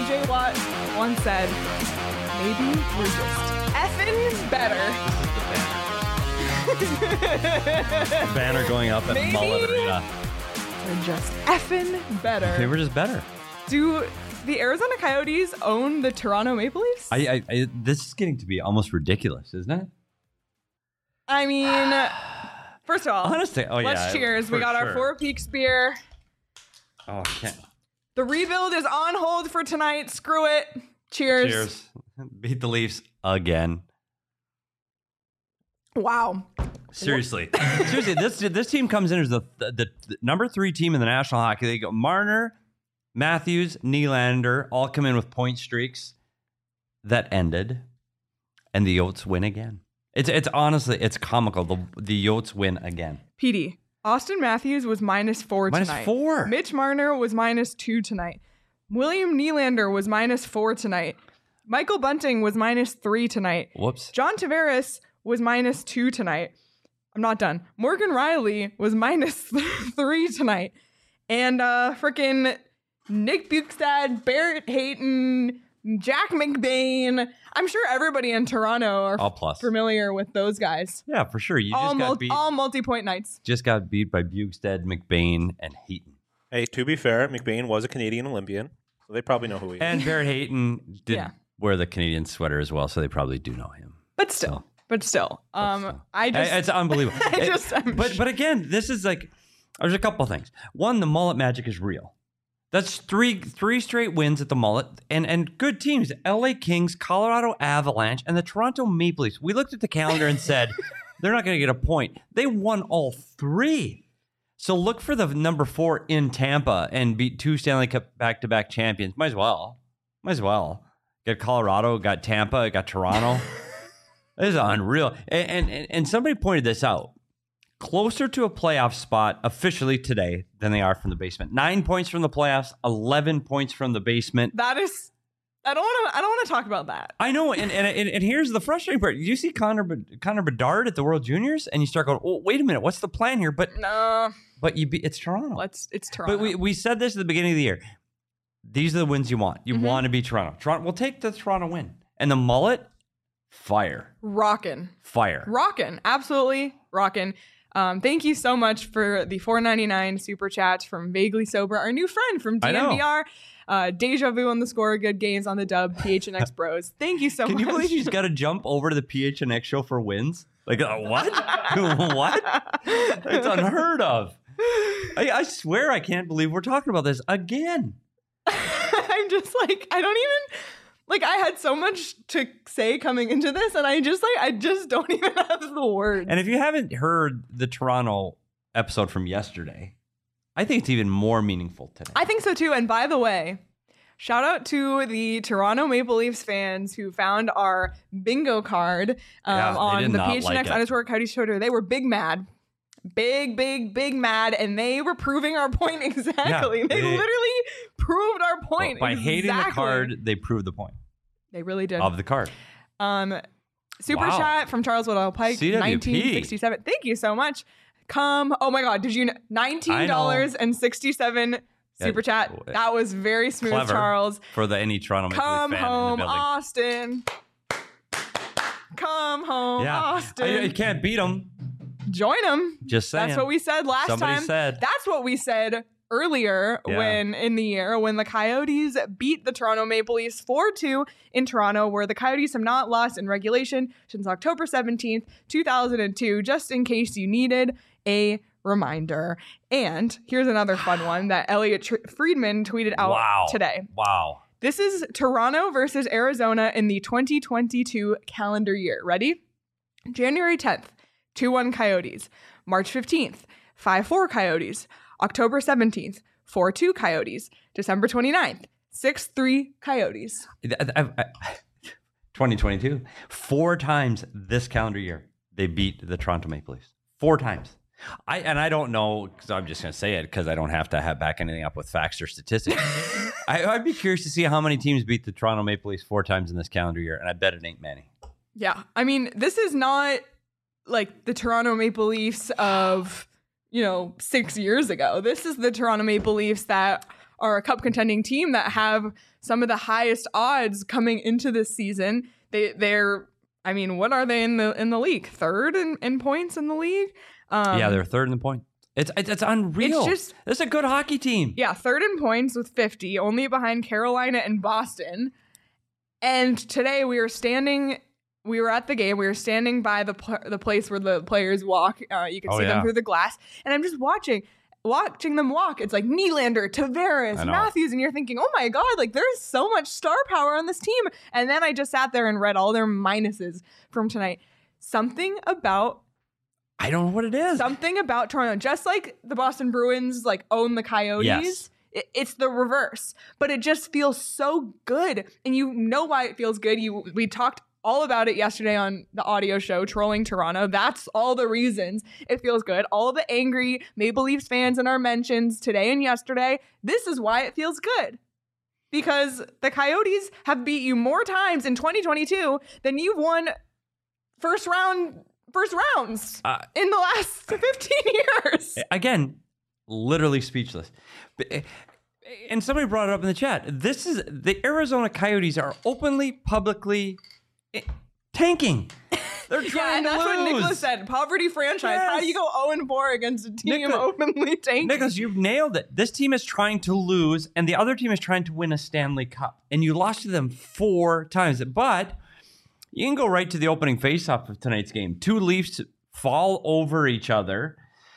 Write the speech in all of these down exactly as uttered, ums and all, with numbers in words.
J Watt once said, maybe we're just effing better. Banner going up at Maybe Mullet Arena. We're just effing better. Okay, we're just better. Do the Arizona Coyotes own the Toronto Maple Leafs? I, I, I this is getting to be almost ridiculous, isn't it? I mean, first of all, honestly, oh let's yeah, cheers. We got sure. our Four Peaks beer. Oh, okay. The rebuild is on hold for tonight. Screw it. Cheers. Cheers. Beat the Leafs again. Wow. Seriously, seriously, this this team comes in as the, the the number three team in the National Hockey League. Marner, Matthews, Nylander all come in with point streaks that ended, and the Yotes win again. It's it's honestly it's comical. The the Yotes win again. P D. Austin Matthews was minus four minus tonight. four. Mitch Marner was minus two tonight. William Nylander was minus four tonight. Michael Bunting was minus three tonight. Whoops. John Tavares was minus two tonight. I'm not done. Morgan Riley was minus three tonight. And uh, freaking Nick Bukestad, Barrett Hayton, Jack McBain. I'm sure everybody in Toronto are all plus. familiar with those guys. Yeah, for sure. You all just got mul- beat. all multi-point nights. Just got beat by Bukestad, McBain, and Hayton. Hey, to be fair, McBain was a Canadian Olympian, so they probably know who he is. And Barrett Hayton did Yeah. wear the Canadian sweater as well, so they probably do know him. But still. So. But still, um, But still. I just, It's unbelievable. I just, I'm but but again, this is like there's a couple things. One, the mullet magic is real. That's three three straight wins at the mullet, and and good teams: L A Kings, Colorado Avalanche, and the Toronto Maple Leafs. We looked at the calendar and said they're not going to get a point. They won all three. So look for the number four in Tampa and beat two Stanley Cup back-to-back champions. Might as well. Might as well. Got Colorado, got Tampa, got Toronto. This is unreal. And, and and somebody pointed this out. Closer to a playoff spot officially today than they are from the basement. Nine points from the playoffs, eleven points from the basement. that is, I don't want to, I don't want to talk about that. I know, and, and and and here's the frustrating part. You see Connor Connor Bedard at the World Juniors, and you start going, "Oh, wait a minute, what's the plan here?" But No, but you be, it's Toronto. let's, it's Toronto. But we, we said this at the beginning of the year. These are the wins you want. You Mm-hmm. want to be Toronto. Toronto. We'll take the Toronto win. And the mullet, fire, Rockin'. fire. Rockin'. Absolutely rockin'. Um, thank you so much for the four ninety-nine super chats from Vaguely Sober, our new friend from D I N know. V R. Uh, Deja Vu on the score, good games on the dub, P H N X Bros. Thank you so Can much. you believe she's got to jump over to the P H N X show for wins? Like, uh, what? What? It's unheard of. I, I swear I can't believe we're talking about this again. I'm just like, I don't even, like, I had so much to say coming into this, and I just, like, I just don't even have the words. And if you haven't heard the Toronto episode from yesterday, I think it's even more meaningful today. I think so too. And by the way, shout out to the Toronto Maple Leafs fans who found our bingo card um, Yeah, they on did the not P H N X like it. underscore Coyotes Twitter. They were big mad. Big, big, big mad. And they were proving our point exactly. Yeah, they, they- literally proved our point. By hating the exactly. card, they proved the point They really did. of the card. Um, super Wow. chat from Charles Woodall Pike, C W P. nineteen sixty-seven. Thank you so much. Come, oh my God, did you know nineteen dollars and sixty-seven super Yeah. chat? That was very smooth, Clever. Charles. For the any Toronto Maple Come Leaf fan home, in the building. Austin. Come home, Yeah, Austin. I, you can't beat them. Join them. Just saying. That's what we said last Somebody time. said. That's what we said earlier Yeah. when in the year when the Coyotes beat the Toronto Maple Leafs four two in Toronto, where the Coyotes have not lost in regulation since October seventeenth, two thousand two, just in case you needed a reminder. And here's another fun one that Elliot Tr- Friedman tweeted out Wow. today. Wow. This is Toronto versus Arizona in the twenty twenty-two calendar year. Ready? January tenth, two one Coyotes. March fifteenth, five four Coyotes. October seventeenth, four two Coyotes. December twenty-ninth, six three Coyotes. I- I- I- twenty twenty-two. Four times this calendar year, they beat the Toronto Maple Leafs. Four times. I and I don't know, because I'm just going to say it because I don't have to have back anything up with facts or statistics. I, I'd be curious to see how many teams beat the Toronto Maple Leafs four times in this calendar year, and I bet it ain't many. Yeah. I mean, this is not like the Toronto Maple Leafs of, you know, six years ago. This is the Toronto Maple Leafs that are a cup contending team that have some of the highest odds coming into this season. They they're I mean, what are they in the in the league? Third in, in points in the league? Um, yeah, they're third in the point. It's it's, it's unreal. It's just this is a good hockey team. Yeah, third in points with fifty, only behind Carolina and Boston. And today we were standing, we were at the game. We were standing by the pl- the place where the players walk. Uh, you can Oh, see yeah. them through the glass, and I'm just watching. Watching them walk, it's like Nylander, Tavares, I know. Matthews, and you're thinking, oh my God, like there's so much star power on this team. And then I just sat there and read all their minuses from tonight. Something about I don't know what it is. something about Toronto, just like the Boston Bruins like own the Coyotes. Yes. it- It's the reverse, but it just feels so good, and you know why it feels good. You we talked all about it yesterday on the audio show, Trolling Toronto. That's all the reasons it feels good. All of the angry Maple Leafs fans in our mentions today and yesterday, this is why it feels good. Because the Coyotes have beat you more times in twenty twenty-two than you've won first round first rounds Uh, in the last fifteen years. Again, literally speechless. But, uh, and somebody brought it up in the chat. This is the Arizona Coyotes are openly, publicly eh, tanking. They're Yeah, trying and to that's lose. what Nicholas said. Poverty franchise. How do you go oh and four against a team Nicholas- openly tanking? Nicholas, you've nailed it. This team is trying to lose, and the other team is trying to win a Stanley Cup. And you lost to them four times. But you can go right to the opening faceoff of tonight's game. Two Leafs fall over each other.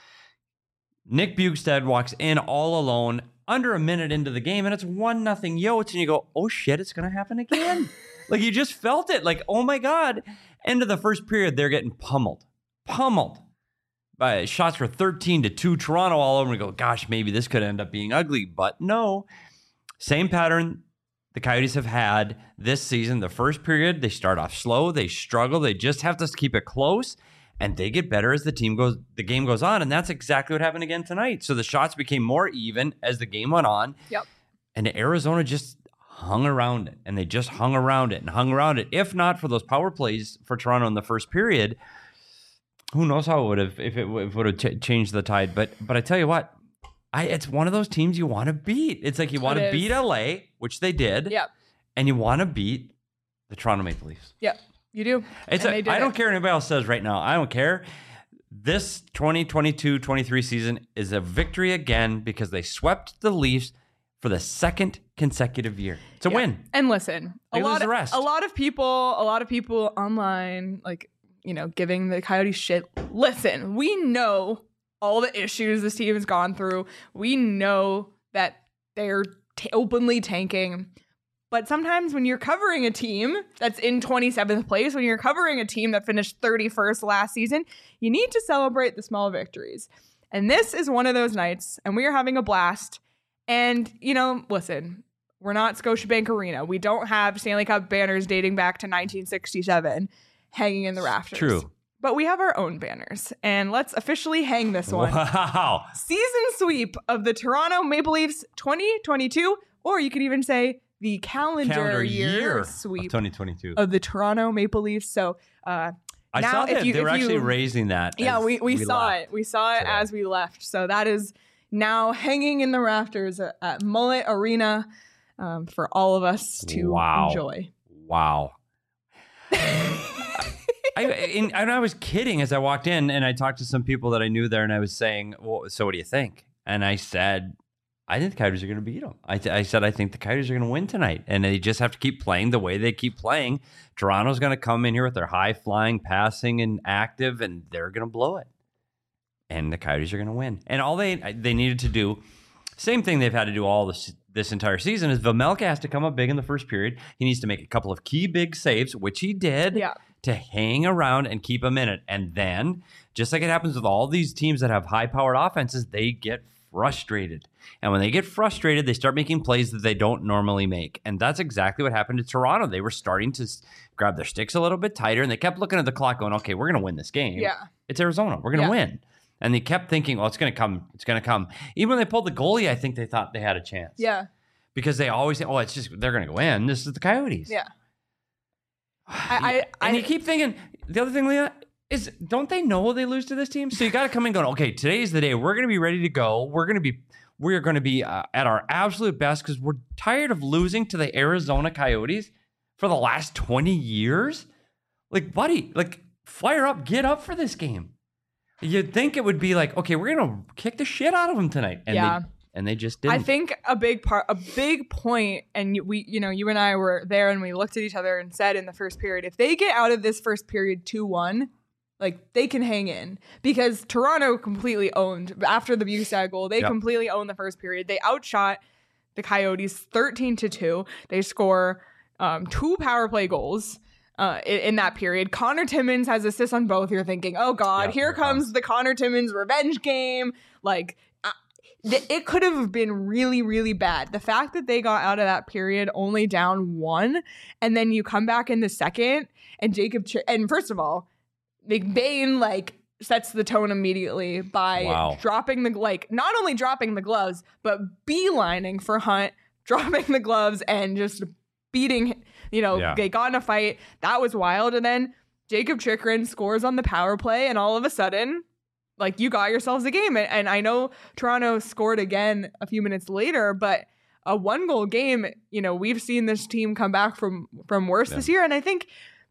Nick Bjugstad walks in all alone under a minute into the game, and it's one nothing Yotes, and you go, oh shit, it's going to happen again. Like, you just felt it. Like, oh my God. End of the first period, they're getting pummeled. Pummeled. By shots for thirteen to two. Toronto all over. And we go, gosh, maybe this could end up being ugly. But no. Same pattern the Coyotes have had this season. The first period, they start off slow. They struggle. They just have to keep it close. And they get better as the team goes, the game goes on. And that's exactly what happened again tonight. So the shots became more even as the game went on. Yep. And Arizona just hung around it. And they just hung around it and hung around it. If not for those power plays for Toronto in the first period, who knows how it would have, if it, if it would have ch- changed the tide. But but I tell you what, I it's one of those teams you want to beat. It's like you want It to is. beat L A, which they did. Yep. And you want to beat the Toronto Maple Leafs. Yep. You do. It's And a, they did I don't it. care what anybody else says right now. I don't care. This twenty twenty-two twenty-three season is a victory again because they swept the Leafs for the second consecutive year. It's a Yeah. win. And listen, a They lose lot, the of, rest. a lot of people, a lot of people online, like, you know, giving the Coyotes shit. Listen, we know all the issues this team has gone through. We know that they're t- openly tanking. But sometimes when you're covering a team that's in twenty-seventh place, when you're covering a team that finished thirty-first last season, you need to celebrate the small victories. And this is one of those nights, and we are having a blast. And, you know, listen, we're not Scotiabank Arena. We don't have Stanley Cup banners dating back to nineteen sixty-seven hanging in the rafters. True. But we have our own banners. And let's officially hang this one. Wow. Season sweep of the Toronto Maple Leafs twenty twenty-two, or you could even say the calendar, Calendar year, year of sweep twenty twenty-two. of the Toronto Maple Leafs. So uh, I now saw if that you- they if were actually you- raising that. yeah, as we, we, saw left. it. We saw it today. as we left. So that is now hanging in the rafters at, at Mullet Arena um, for all of us to Wow. enjoy. Wow. I, and, and I was kidding as I walked in, and I talked to some people that I knew there, and I was saying, well, so what do you think? And I said, I think the Coyotes are going to beat them. I, th- I said, I think the Coyotes are going to win tonight, and they just have to keep playing the way they keep playing. Toronto's going to come in here with their high-flying, passing, and active, and they're going to blow it. And the Coyotes are going to win. And all they they needed to do, same thing they've had to do all this this entire season, is Vejmelka has to come up big in the first period. He needs to make a couple of key big saves, which he did, Yeah. to hang around and keep them in it. And then, just like it happens with all these teams that have high-powered offenses, they get frustrated. And when they get frustrated, they start making plays that they don't normally make. And that's exactly what happened to Toronto. They were starting to s- grab their sticks a little bit tighter, and they kept looking at the clock going, okay, we're going to win this game. Yeah. It's Arizona. We're going to Yeah. win. And they kept thinking, oh, it's going to come. It's going to come. Even when they pulled the goalie, I think they thought they had a chance. Yeah. Because they always say, oh, it's just, they're going to go in. This is the Coyotes. Yeah. I, I, And I you keep thinking, the other thing, Leah, is don't they know they lose to this team? So you got to come in going, okay, today's the day. We're going to be ready to go. We're going to be, we're going to be uh, at our absolute best because we're tired of losing to the Arizona Coyotes for the last twenty years. Like, buddy, like, fire up, get up for this game. You'd think it would be like, okay, we're going to kick the shit out of them tonight. And Yeah. They, and they just didn't. I think a big part, a big point, and we, you know, you and I were there and we looked at each other and said in the first period, if they get out of this first period two one, like they can hang in because Toronto completely owned after the Bukestad goal. They Yep. completely owned the first period. They outshot the Coyotes thirteen to two. They score um, two power play goals. Uh, in, in that period, Connor Timmins has assists on both. You're thinking, oh God, Yep, here here comes comes. the Connor Timmins revenge game. Like, uh, th- it could have been really, really bad. The fact that they got out of that period only down one, and then you come back in the second, and Jacob, Ch- and first of all, McBain like sets the tone immediately by Wow. dropping the like not only dropping the gloves, but beelining for Hunt, dropping the gloves and just beating. You know, Yeah. they got in a fight. That was wild. And then Jacob Chikrin scores on the power play, and all of a sudden, like, you got yourselves a game. And, and I know Toronto scored again a few minutes later, but a one goal game, you know, we've seen this team come back from from worse Yeah. this year. And I think,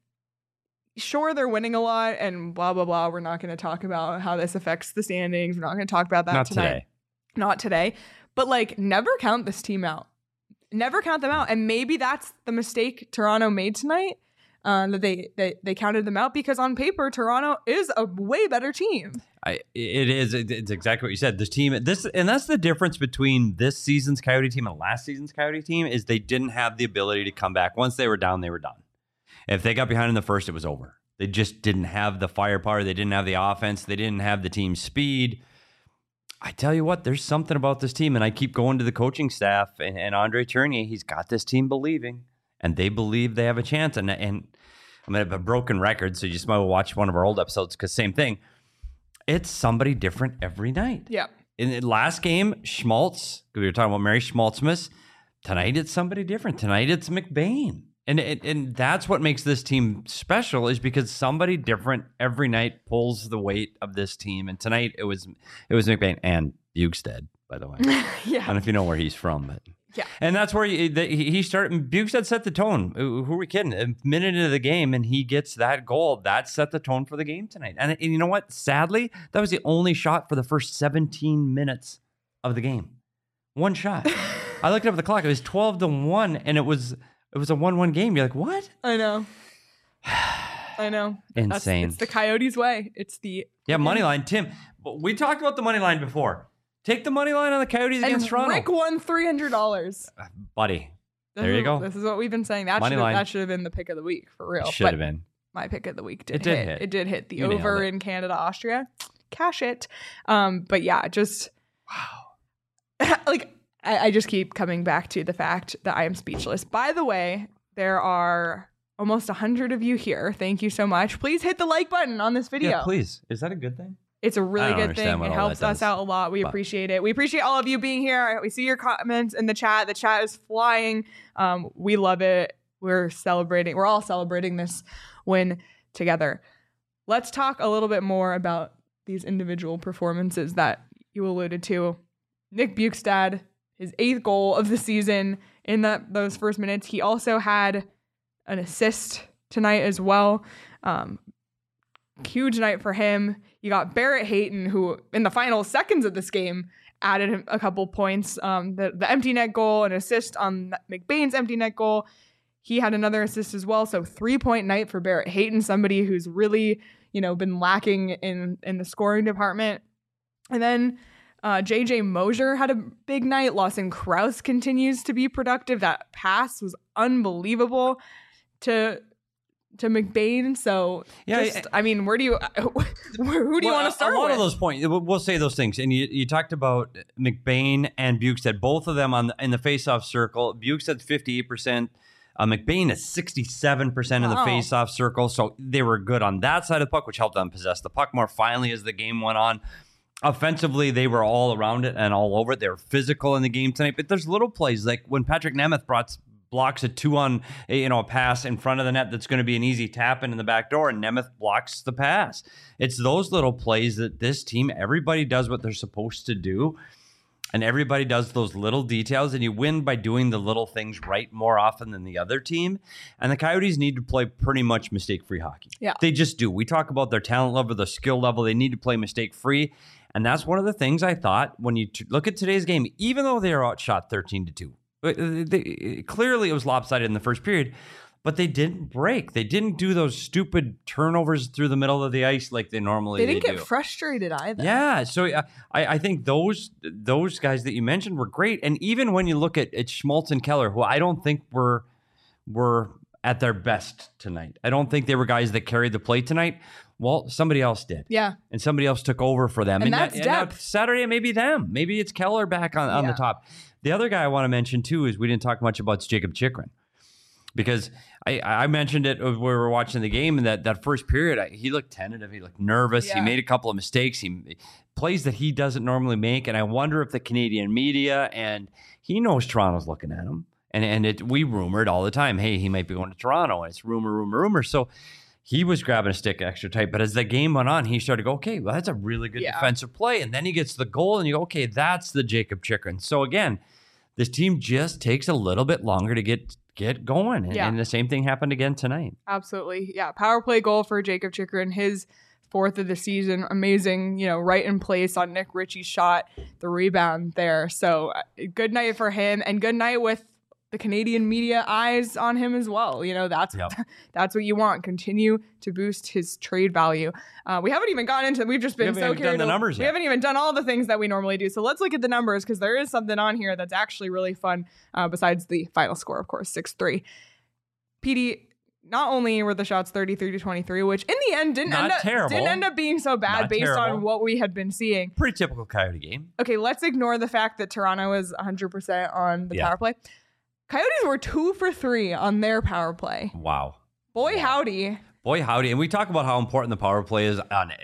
sure, they're winning a lot and blah, blah, blah. We're not going to talk about how this affects the standings. We're not going to talk about that Not tonight. today. Not today. But, like, never count this team out. Never count them out. And maybe that's the mistake Toronto made tonight, uh, that they, they they counted them out, because on paper, Toronto is a way better team. I, it is. it- It's exactly what you said. This team, this, and that's the difference between this season's Coyote team and last season's Coyote team is they didn't have the ability to come back. Once they were down, they were done. If they got behind in the first, it was over. They just didn't have the firepower. They didn't have the offense. They didn't have the team speed. I tell you what, there's something about this team, and I keep going to the coaching staff and, and Andre Tournier. He's got this team believing, and they believe they have a chance. And and I'm gonna have a broken record, so you just might watch one of our old episodes because same thing. It's somebody different every night. Yeah. In the last game, Schmaltz, we were talking about Mary Schmaltzmas. Tonight it's somebody different. Tonight it's McBain. And, and and that's what makes this team special, is because somebody different every night pulls the weight of this team. And tonight it was it was McBain and Bukestad, by the way. I Yeah. don't know if you know where he's from, but Yeah. and that's where he the, he he started. Bukestad set the tone. Who who are we kidding? A minute into the game, and he gets that goal. That set the tone for the game tonight. And, and you know what? Sadly, that was the only shot for the first seventeen minutes of the game. One shot. I looked up at the clock. It was twelve to one, and it was it was a one one game. You're like, what? I know. I know. That's- Insane. it's the Coyotes' way. It's the Yeah, money line. Tim, we talked about the money line before. Take the money line on the Coyotes and against Toronto, Rick won three hundred dollars. buddy. There you go. This is what we've been saying. That Money should have, line. that should have been the pick of the week for real. Should But have been. my pick of the week did, It did hit. hit. It did hit the You nailed over it. in Canada, Austria. Cash it. Um, but yeah, just wow. like I, I just keep coming back to the fact that I am speechless. By the way, there are almost a hundred of you here. Thank you so much. Please hit the like button on this video. Yeah, please. Is that a good thing? It's a I really don't good understand thing. what It all helps that us does. out a lot. We But- appreciate it. We appreciate all of you being here. We see your comments in the chat. The chat is flying. Um, we love it. We're celebrating. We're all celebrating this win together. Let's talk a little bit more about these individual performances that you alluded to. Nick Bukestad, his eighth goal of the season in that those first minutes. He also had an assist tonight as well. Um, huge night for him. You got Barrett Hayton, who in the final seconds of this game added a couple points. Um, the, the empty net goal, an assist on McBain's empty net goal. He had another assist as well. So three-point night for Barrett Hayton, somebody who's really, you know, been lacking in, in the scoring department. And then uh, J J Mosier had a big night. Lawson Krause continues to be productive. That pass was unbelievable to to McBain. So, Yeah, just, I mean, where do you, who do you want to start A lot with? of those points, we'll we'll say those things. And you, you talked about McBain and Bukestad, both of them on the, in the faceoff circle. Bukestad's fifty-eight percent. Uh, McBain is sixty-seven percent in the Wow. faceoff circle. So they were good on that side of the puck, which helped them possess the puck more finally as the game went on. Offensively, they were all around it and all over it. They were physical in the game tonight. But there's little plays like when Patrick Nemeth brought blocks a two on a, you know a pass in front of the net that's going to be an easy tap in the back door, and Nemeth blocks the pass. It's those little plays that this team, everybody does what they're supposed to do. And everybody does those little details, and you win by doing the little things right more often than the other team. And the Coyotes need to play pretty much mistake-free hockey. Yeah. They just do. We talk about their talent level, their skill level. They need to play mistake-free. And that's one of the things I thought when you t- look at today's game, even though they are outshot thirteen to two. They, they, clearly, it was lopsided in the first period. But they didn't break. They didn't do those stupid turnovers through the middle of the ice like they normally do. They didn't they get do. frustrated either. Yeah, so uh, I, I think those those guys that you mentioned were great. And even when you look at, at Schmaltz and Keller, who I don't think were were at their best tonight. I don't think they were guys that carried the play tonight. Well, somebody else did. Yeah. And somebody else took over for them. And, and that's that, depth. And Saturday, maybe them. Maybe it's Keller back on, on yeah. the top. The other guy I want to mention, too, is we didn't talk much about Jacob Chychrun. Because I, I mentioned it when we were watching the game, and that, that first period, I, he looked tentative. He looked nervous. Yeah. He made a couple of mistakes. He plays that he doesn't normally make. And I wonder if the Canadian media, and he knows Toronto's looking at him. And and it, we rumored all the time, hey, he might be going to Toronto. And it's rumor, rumor, rumor. So he was grabbing a stick extra tight. But as the game went on, he started to go, okay, well, that's a really good yeah. defensive play. And then he gets the goal, and you go, okay, that's the Jacob Chychrun. So again, this team just takes a little bit longer to get get going. And, yeah. and the same thing happened again tonight. Absolutely. Yeah. Power play goal for Jacob Chychrun, his fourth of the season. Amazing, you know, right in place on Nick Ritchie's shot, the rebound there. So uh, good night for him, and good night with the Canadian media eyes on him as well. You know, that's yep. that's what you want. Continue to boost his trade value. Uh, we haven't even gotten into, we've just been we so carried done the numbers We yet. haven't even done all the things that we normally do. So let's look at the numbers, because there is something on here that's actually really fun, uh, besides the final score, of course, six three. P D, not only were the shots thirty-three to twenty-three, which in the end didn't, not end up, terrible. didn't end up being so bad not based terrible. on what we had been seeing. Pretty typical Coyote game. Okay, let's ignore the fact that Toronto was one hundred percent on the yeah. power play. Coyotes were two for three on their power play. Wow. Boy, wow. howdy. Boy, howdy. And we talk about how important the power play is on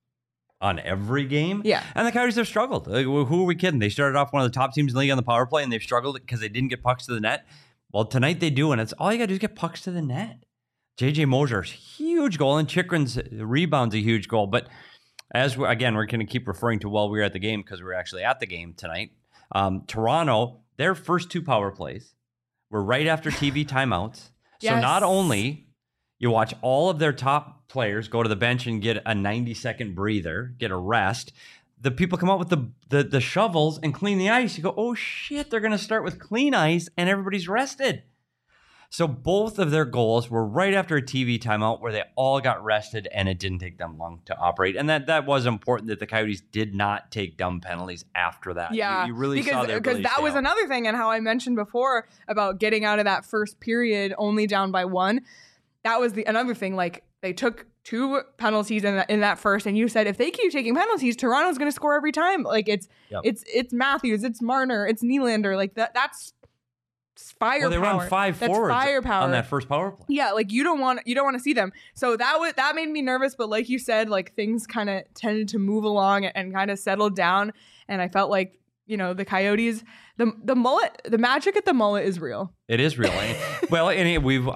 on every game. Yeah. And the Coyotes have struggled. Like, who are we kidding? They started off one of the top teams in the league on the power play, and they've struggled because they didn't get pucks to the net. Well, tonight they do, and it's all you got to do is get pucks to the net. J J Mosier's huge goal, and Chychrun's rebound's a huge goal. But as we, again, we're going to keep referring to while we were at the game, because we were actually at the game tonight. Um, Toronto, their first two power plays were right after T V timeouts. Yes. So not only you watch all of their top players go to the bench and get a ninety second breather, get a rest, the people come out with the, the, the shovels and clean the ice. You go, oh shit, they're going to start with clean ice and everybody's rested. So both of their goals were right after a T V timeout where they all got rested, and it didn't take them long to operate. And that, that was important, that the Coyotes did not take dumb penalties after that. Yeah, you, you really because, saw their because that was out. another thing, and how I mentioned before about getting out of that first period only down by one. That was the another thing. Like, they took two penalties in that, in that first, and you said if they keep taking penalties, Toronto's going to score every time. Like it's yep. it's it's Matthews, it's Marner, it's Nylander. Like that that's firepower. Well, they run five That's forwards firepower. on that first power play. Yeah, like you don't want you don't want to see them. So that was that made me nervous. But like you said, like things kind of tended to move along and kind of settled down. And I felt like, you know, the Coyotes, the the mullet, the magic at the mullet is real. It is real. Well, and it, we've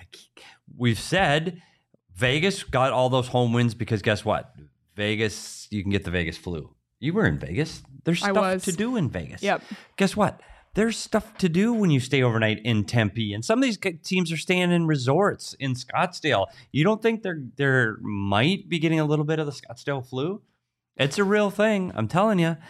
we've said Vegas got all those home wins because guess what? Vegas, you can get the Vegas flu. You were in Vegas. There's I stuff was. to do in Vegas. Yep. Guess what? There's stuff to do when you stay overnight in Tempe, and some of these teams are staying in resorts in Scottsdale. You don't think they're they're might be getting a little bit of the Scottsdale flu? It's a real thing. I'm telling you.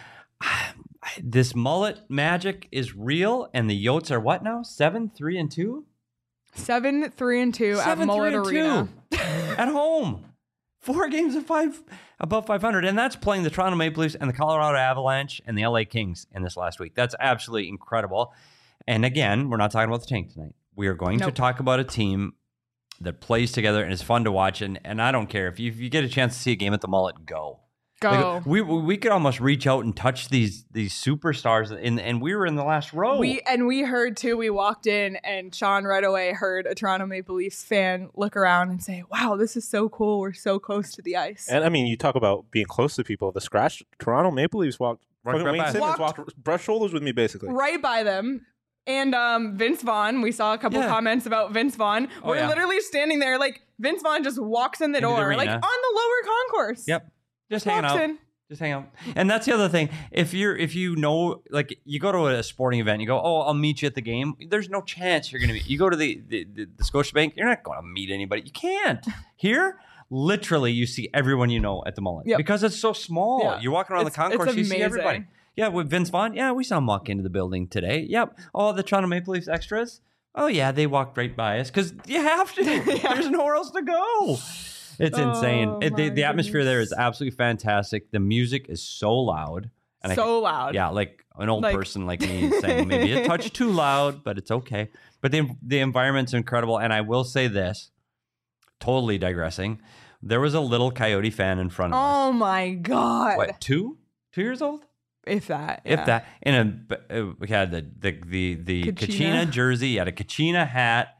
This mullet magic is real, and the Yotes are what now? Seven, three, and two. Seven, three, and two Seven, at Mullet three, and Arena two. At home. Four games of five above five hundred, and that's playing the Toronto Maple Leafs and the Colorado Avalanche and the L A Kings in this last week. That's absolutely incredible. And again, we're not talking about the tank tonight. We are going nope. to talk about a team that plays together and is fun to watch. And and I don't care if you, if you get a chance to see a game at the Mullet, go. Go. Like, we we could almost reach out and touch these these superstars, and and we were in the last row. We and we heard too. We walked in, and Sean right away heard a Toronto Maple Leafs fan look around and say, "Wow, this is so cool. We're so close to the ice." And I mean, you talk about being close to people. The scratch Toronto Maple Leafs walked. Right, fucking right Wayne by. Simmons Walked- walked, brushed shoulders with me, basically. Right by them. And um, Vince Vaughn, we saw a couple Yeah. comments about Vince Vaughn. Oh, We're yeah. literally standing there, like Vince Vaughn just walks in the Into the door, like arena. on the lower concourse. Yep, just Walks hanging out. in. Just Just hang out. And that's the other thing. If you're, if you know, like you go to a sporting event, you go, oh, I'll meet you at the game. There's no chance you're going to meet. You go to the, the, the, the Scotiabank, you're not going to meet anybody. You can't. Here, literally, you see everyone you know at the Mullet Yep. because it's so small. Yeah. You're walking around It's- the concourse, it's you see amazing. everybody. Yeah, with Vince Vaughn. Yeah, we saw him walk into the building today. Yep. Oh, the Toronto Maple Leafs extras. Oh, yeah, they walked right by us because you have to. There's nowhere else to go. It's Oh, insane. It, the my the atmosphere there goodness. is absolutely fantastic. The music is so loud. And I, So loud. yeah, like an old Like- person like me is saying maybe a touch too loud, but it's okay. But the the environment's incredible. And I will say this, totally digressing. There was a little Coyote fan in front of us. Oh my God. What, two? Two years old? If that. If yeah. that. In a, uh, we had the the the, the Kachina. Kachina jersey, you had a Kachina hat.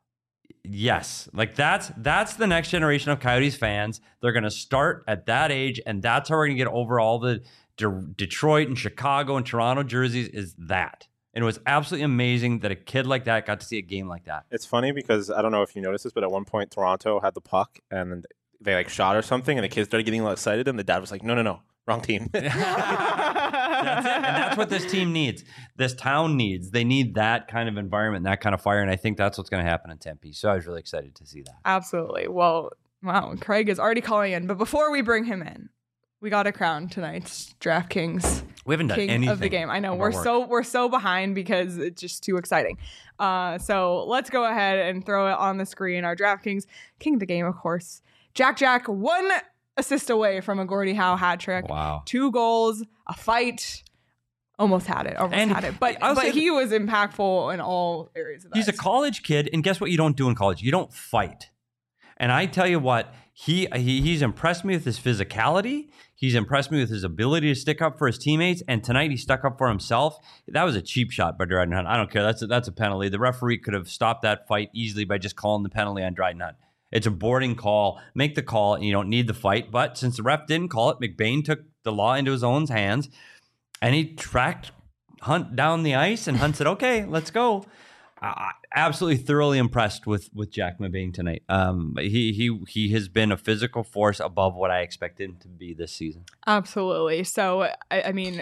Yes, like that's that's the next generation of Coyotes fans. They're going to start at that age, and that's how we're going to get over all the De- Detroit and Chicago and Toronto jerseys. Is that? And it was absolutely amazing that a kid like that got to see a game like that. It's funny because I don't know if you noticed this, but at one point Toronto had the puck and they like shot or something, and the kids started getting a little excited, and the dad was like, "No, no, no, wrong team." That's it. And that's what this team needs. This town needs. They need that kind of environment, that kind of fire. And I think that's what's going to happen in Tempe. So I was really excited to see that. Absolutely. Well, wow. Craig is already calling in. But before we bring him in, we got to crown tonight's DraftKings We haven't done king anything of the game. I know of we're our work. so we're so behind because it's just too exciting. Uh, so let's go ahead and throw it on the screen. Our DraftKings king of the game, of course. Jack Jack, one assist away from a Gordie Howe hat trick. Wow. Two goals, a fight. Almost had it. Almost And had it. But I'll but say he was impactful in all areas of that. He's a college kid, and guess what you don't do in college? You don't fight. And I tell you what, he, he he's impressed me with his physicality. He's impressed me with his ability to stick up for his teammates. And tonight he stuck up for himself. That was a cheap shot by Dryden Hunt. I don't care. That's a, that's a penalty. The referee could have stopped that fight easily by just calling the penalty on Dryden Hunt. It's a boarding call. Make the call, and you don't need the fight. But since the ref didn't call it, McBain took the law into his own hands, and he tracked Hunt down the ice, and Hunt said, "Okay, let's go." Uh, absolutely, thoroughly impressed with with Jack McBain tonight. Um, he he he has been a physical force above what I expected him to be this season. Absolutely. So, I, I mean,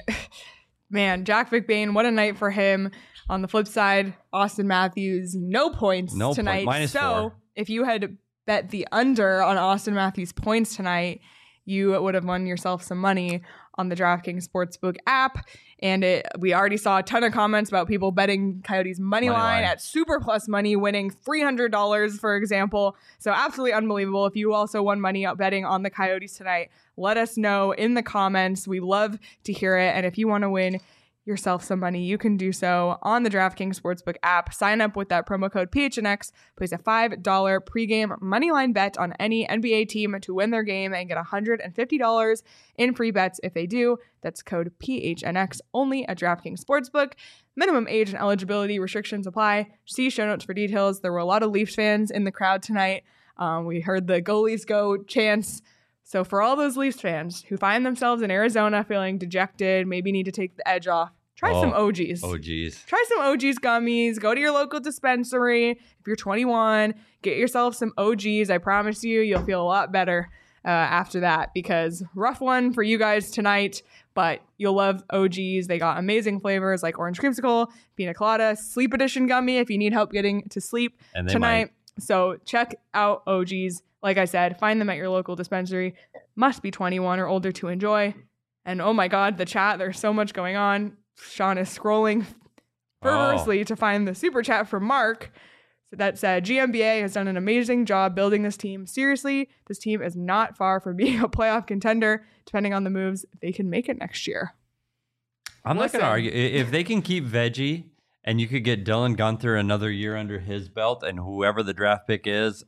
man, Jack McBain, what a night for him. On the flip side, Austin Matthews, no points No point- tonight. minus so, four. if you had bet the under on Austin Matthews' points tonight, you would have won yourself some money on the DraftKings Sportsbook app. And it, we already saw a ton of comments about people betting Coyotes money, Money line line. at Super Plus Money, winning three hundred dollars, for example. So absolutely unbelievable. If you also won money out betting on the Coyotes tonight, let us know in the comments. We love to hear it. And if you want to win yourself some money, you can do so on the DraftKings Sportsbook app. Sign up with that promo code P H N X, place a five dollars pregame moneyline bet on any N B A team to win their game and get one hundred fifty dollars in free bets if they do. That's code P H N X only at DraftKings Sportsbook. Minimum age and eligibility restrictions apply. See show notes for details. There were a lot of Leafs fans in the crowd tonight. Um, we heard the "Go Leafs Go" chants. So for all those Leafs fans who find themselves in Arizona feeling dejected, maybe need to take the edge off, try Oh. some O Gs. Oh, geez. Try some O Gs gummies. Go to your local dispensary. If you're twenty-one, get yourself some O Gs. I promise you, you'll feel a lot better uh, after that, because rough one for you guys tonight, but you'll love O Gs. They got amazing flavors like orange creamsicle, pina colada, sleep edition gummy if you need help getting to sleep And they tonight. So check out O Gs. Like I said, find them at your local dispensary. Must be twenty-one or older to enjoy. And oh my God, the chat, there's so much going on. Sean is scrolling fervorously Oh. to find the super chat from Mark. So that said, G M B A has done an amazing job building this team. Seriously, this team is not far from being a playoff contender, depending on the moves. They can make it next year. I'm not Listen. going to argue. I- If they can keep Veggie and you could get Dylan Gunther another year under his belt and whoever the draft pick is,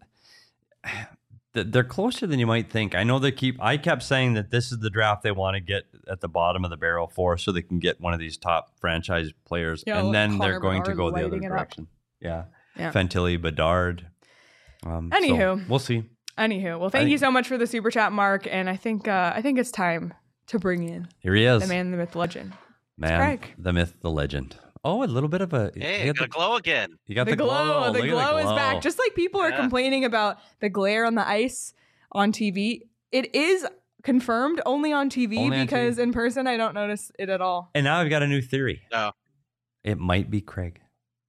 th- they're closer than you might think. I know they keep, I kept saying that this is the draft they want to get at the bottom of the barrel for so they can get one of these top franchise players. Yeah, and like then Connor they're going to Bedard go the other lighting it up. direction. Yeah. Yeah. Fantilli, Bedard. Um, so Anywho. we'll see. Anywho, well, thank think- you so much for the super chat, Mark. And I think uh, I think it's time to bring in Here he is. the man, the myth, the legend. Man, Craig. the myth, the legend. Oh, a little bit of a. Hey, you got got the glow again. You got The, the, glow, the Look at glow is glow. back. Just like people are Yeah. complaining about the glare on the ice on T V, it is confirmed only on T V Only on because T V. in person I don't notice it at all. And now I've got a new theory. No. It might be Craig.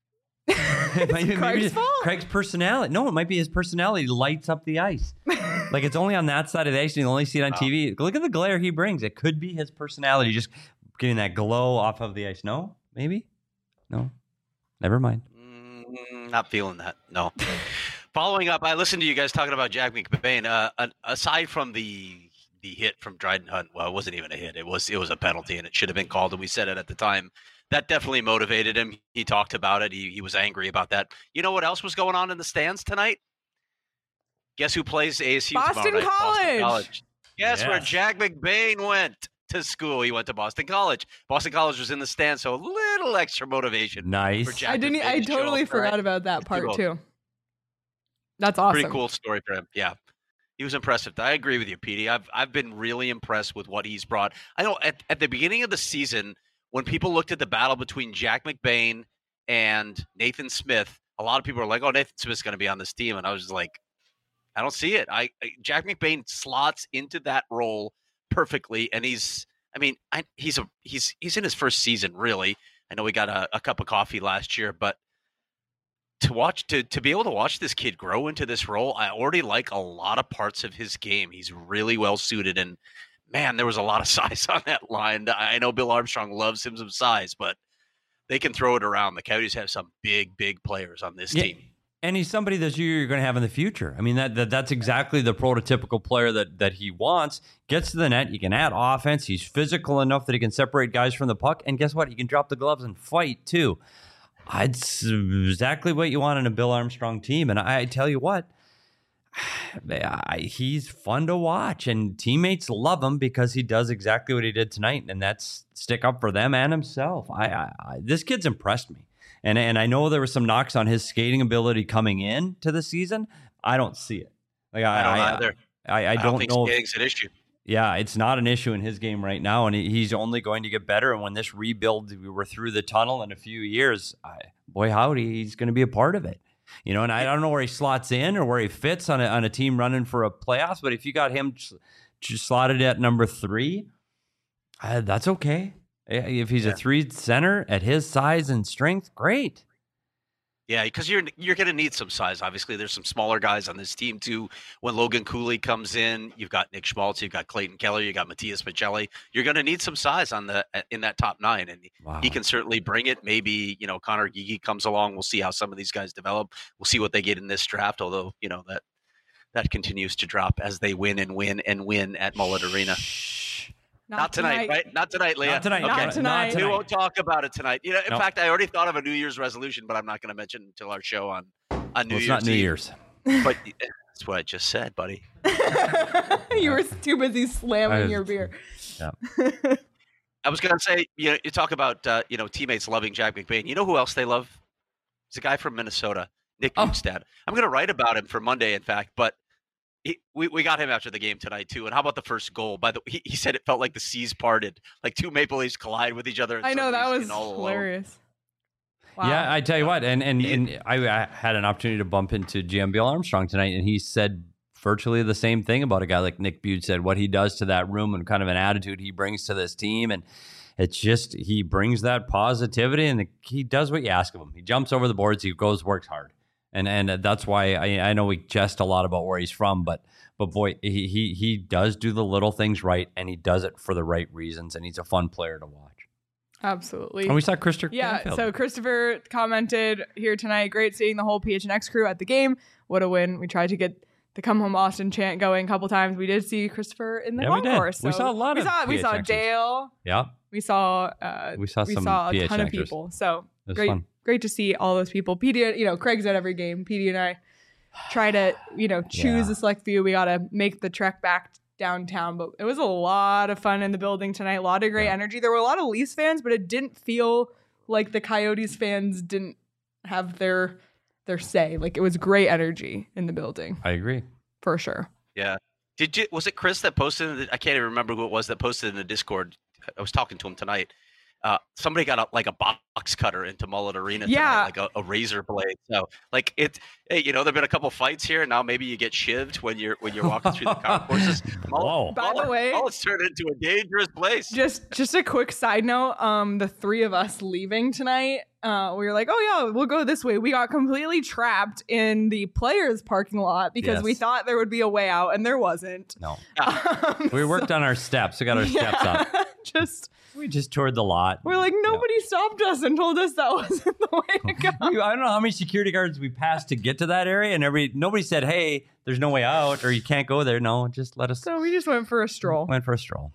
It might be- Craig's maybe fault? Craig's personality. No, it might be his personality lights up the ice. Like it's only on that side of the ice and you only see it on Oh. T V. Look at the glare he brings. It could be his personality just getting that glow off of the ice. No? Maybe? No? Never mind. Mm, not feeling that. No. Following up, I listened to you guys talking about Jack McBain. Uh, uh, aside from the the hit from Dryden Hunt, well, it wasn't even a hit. It was it was a penalty, and it should have been called. And we said it at the time. That definitely motivated him. He talked about it. He he was angry about that. You know what else was going on in the stands tonight? Guess who plays A S U Boston tomorrow night? College. Boston College. Guess where Yes. Jack McBain went to school? He went to Boston College. Boston College was in the stands, so a little extra motivation. Nice. For Jack I didn't. McBain I to show totally up for it. forgot about that part Two too. That's awesome. Pretty cool story for him. Yeah. He was impressive. I agree with you, Petey. I've I've been really impressed with what he's brought. I know at, at the beginning of the season, when people looked at the battle between Jack McBain and Nathan Smith, a lot of people were like, "Oh, Nathan Smith's going to be on this team," and I was just like, "I don't see it." I, I Jack McBain slots into that role perfectly, and he's. I mean, I, he's a he's he's in his first season, really. I know we got a, a cup of coffee last year, but to watch to to be able to watch this kid grow into this role, I already like a lot of parts of his game. He's really well suited, and man, there was a lot of size on that line. I know Bill Armstrong loves him some size, but they can throw it around. The Coyotes have some big, big players on this Yeah. team. And he's somebody that you're going to have in the future. I mean, that, that that's exactly the prototypical player that that he wants. Gets to the net, you can add offense. He's physical enough that he can separate guys from the puck. And guess what? He can drop the gloves and fight too. It's exactly what you want in a Bill Armstrong team. And I, I tell you what, I, he's fun to watch. And teammates love him because he does exactly what he did tonight. And that's stick up for them and himself. I, I, I this kid's impressed me. And and I know there were some knocks on his skating ability coming in to the season. I don't see it. Like I, I don't I, either. I, I, I don't, don't think know. If, skating's an issue. yeah, it's not an issue in his game right now, and he, he's only going to get better. And when this rebuild, we were through the tunnel in a few years. I, boy, howdy, he's going to be a part of it. You know, and I don't know where he slots in or where he fits on a on a team running for a playoffs. But if you got him just slotted at number three, uh, that's okay. If he's Yeah. a three center at his size and strength, great. Yeah, because you're you're going to need some size. Obviously, there's some smaller guys on this team too. When Logan Cooley comes in, you've got Nick Schmaltz, you've got Clayton Keller, you got Matthias Michelli. You're going to need some size on the in that top nine, and Wow. he can certainly bring it. Maybe you know Connor Gigi comes along. We'll see how some of these guys develop. We'll see what they get in this draft. Although you know that that continues to drop as they win and win and win at Mullet Arena. Shh. Not, tonight, right? Not tonight, Leah. Not tonight. Okay. Not tonight. We won't talk about it tonight. You know, in No. fact, I already thought of a New Year's resolution, but I'm not going to mention it until our show on on New Well, it's Year's not New Eve. Year's. But that's what I just said, buddy. You were too busy slamming I- your beer. Yeah. I was going to say, you know, you talk about uh, you know teammates loving Jack McBain. You know who else they love? He's a guy from Minnesota, Nick Oh. Bjugstad. I'm going to write about him for Monday, in fact, but. He, we, we got him after the game tonight too. And how about the first goal? By the he, he said it felt like the seas parted, like two Maple Leafs collide with each other. And I know suddenly that he's was in all alone. hilarious. Wow. Yeah, I tell you what, and and, He- and I, I had an opportunity to bump into G M Bill Armstrong tonight, and he said virtually the same thing about a guy like Nick Bjugstad, what he does to that room and kind of an attitude he brings to this team. And it's just, he brings that positivity and he does what you ask of him. He jumps over the boards, he goes, works hard. And and that's why I, I know we jest a lot about where he's from, but but boy, he, he he does do the little things right, and he does it for the right reasons, and he's a fun player to watch. Absolutely. And we saw Christopher. Yeah, Canfield. so Christopher commented here tonight, great seeing the whole P H N X crew at the game. What a win. We tried to get the Come Home Austin chant going a couple times. We did see Christopher in the Yeah, we did. concourse. We so saw a lot we of saw, We saw P H Xers. Dale. yeah, We saw uh, we saw we some saw a P H ton of Xers. people. So It was great, fun. great to see all those people. P D, you know, Craig's at every game. P D and I try to, you know, choose Yeah. a select few. We got to make the trek back downtown, but it was a lot of fun in the building tonight. A lot of great Yeah. energy. There were a lot of Leafs fans, but it didn't feel like the Coyotes fans didn't have their their say. Like it was great energy in the building I agree. for sure. Yeah. Did you? Was it Chris that posted? In the, I can't even remember who it was that posted in the Discord. I was talking to him tonight, Uh, somebody got a, like a box cutter into Mullet Arena tonight, Yeah. like a, a razor blade. So, like it, hey, you know, there've been a couple fights here. Now maybe you get shivved when you're when you're walking through the concourses. Whoa. By the way- Mullet's turned into a dangerous place. Just just a quick side note, um, the three of us leaving tonight, uh, we were like, oh yeah, we'll go this way. We got completely trapped in the players' parking lot because we Yes. thought there would be a way out, and there wasn't. No. Um, We worked on our steps. We got our steps yeah, up. just We just toured the lot. we're like, nobody stopped us and told us that wasn't the way to go. We- I don't know how many security guards we passed to get to that area, and every nobody said, "Hey, there's no way out," or "You can't go there." No, just let us. So we just went for a stroll. Went for a stroll.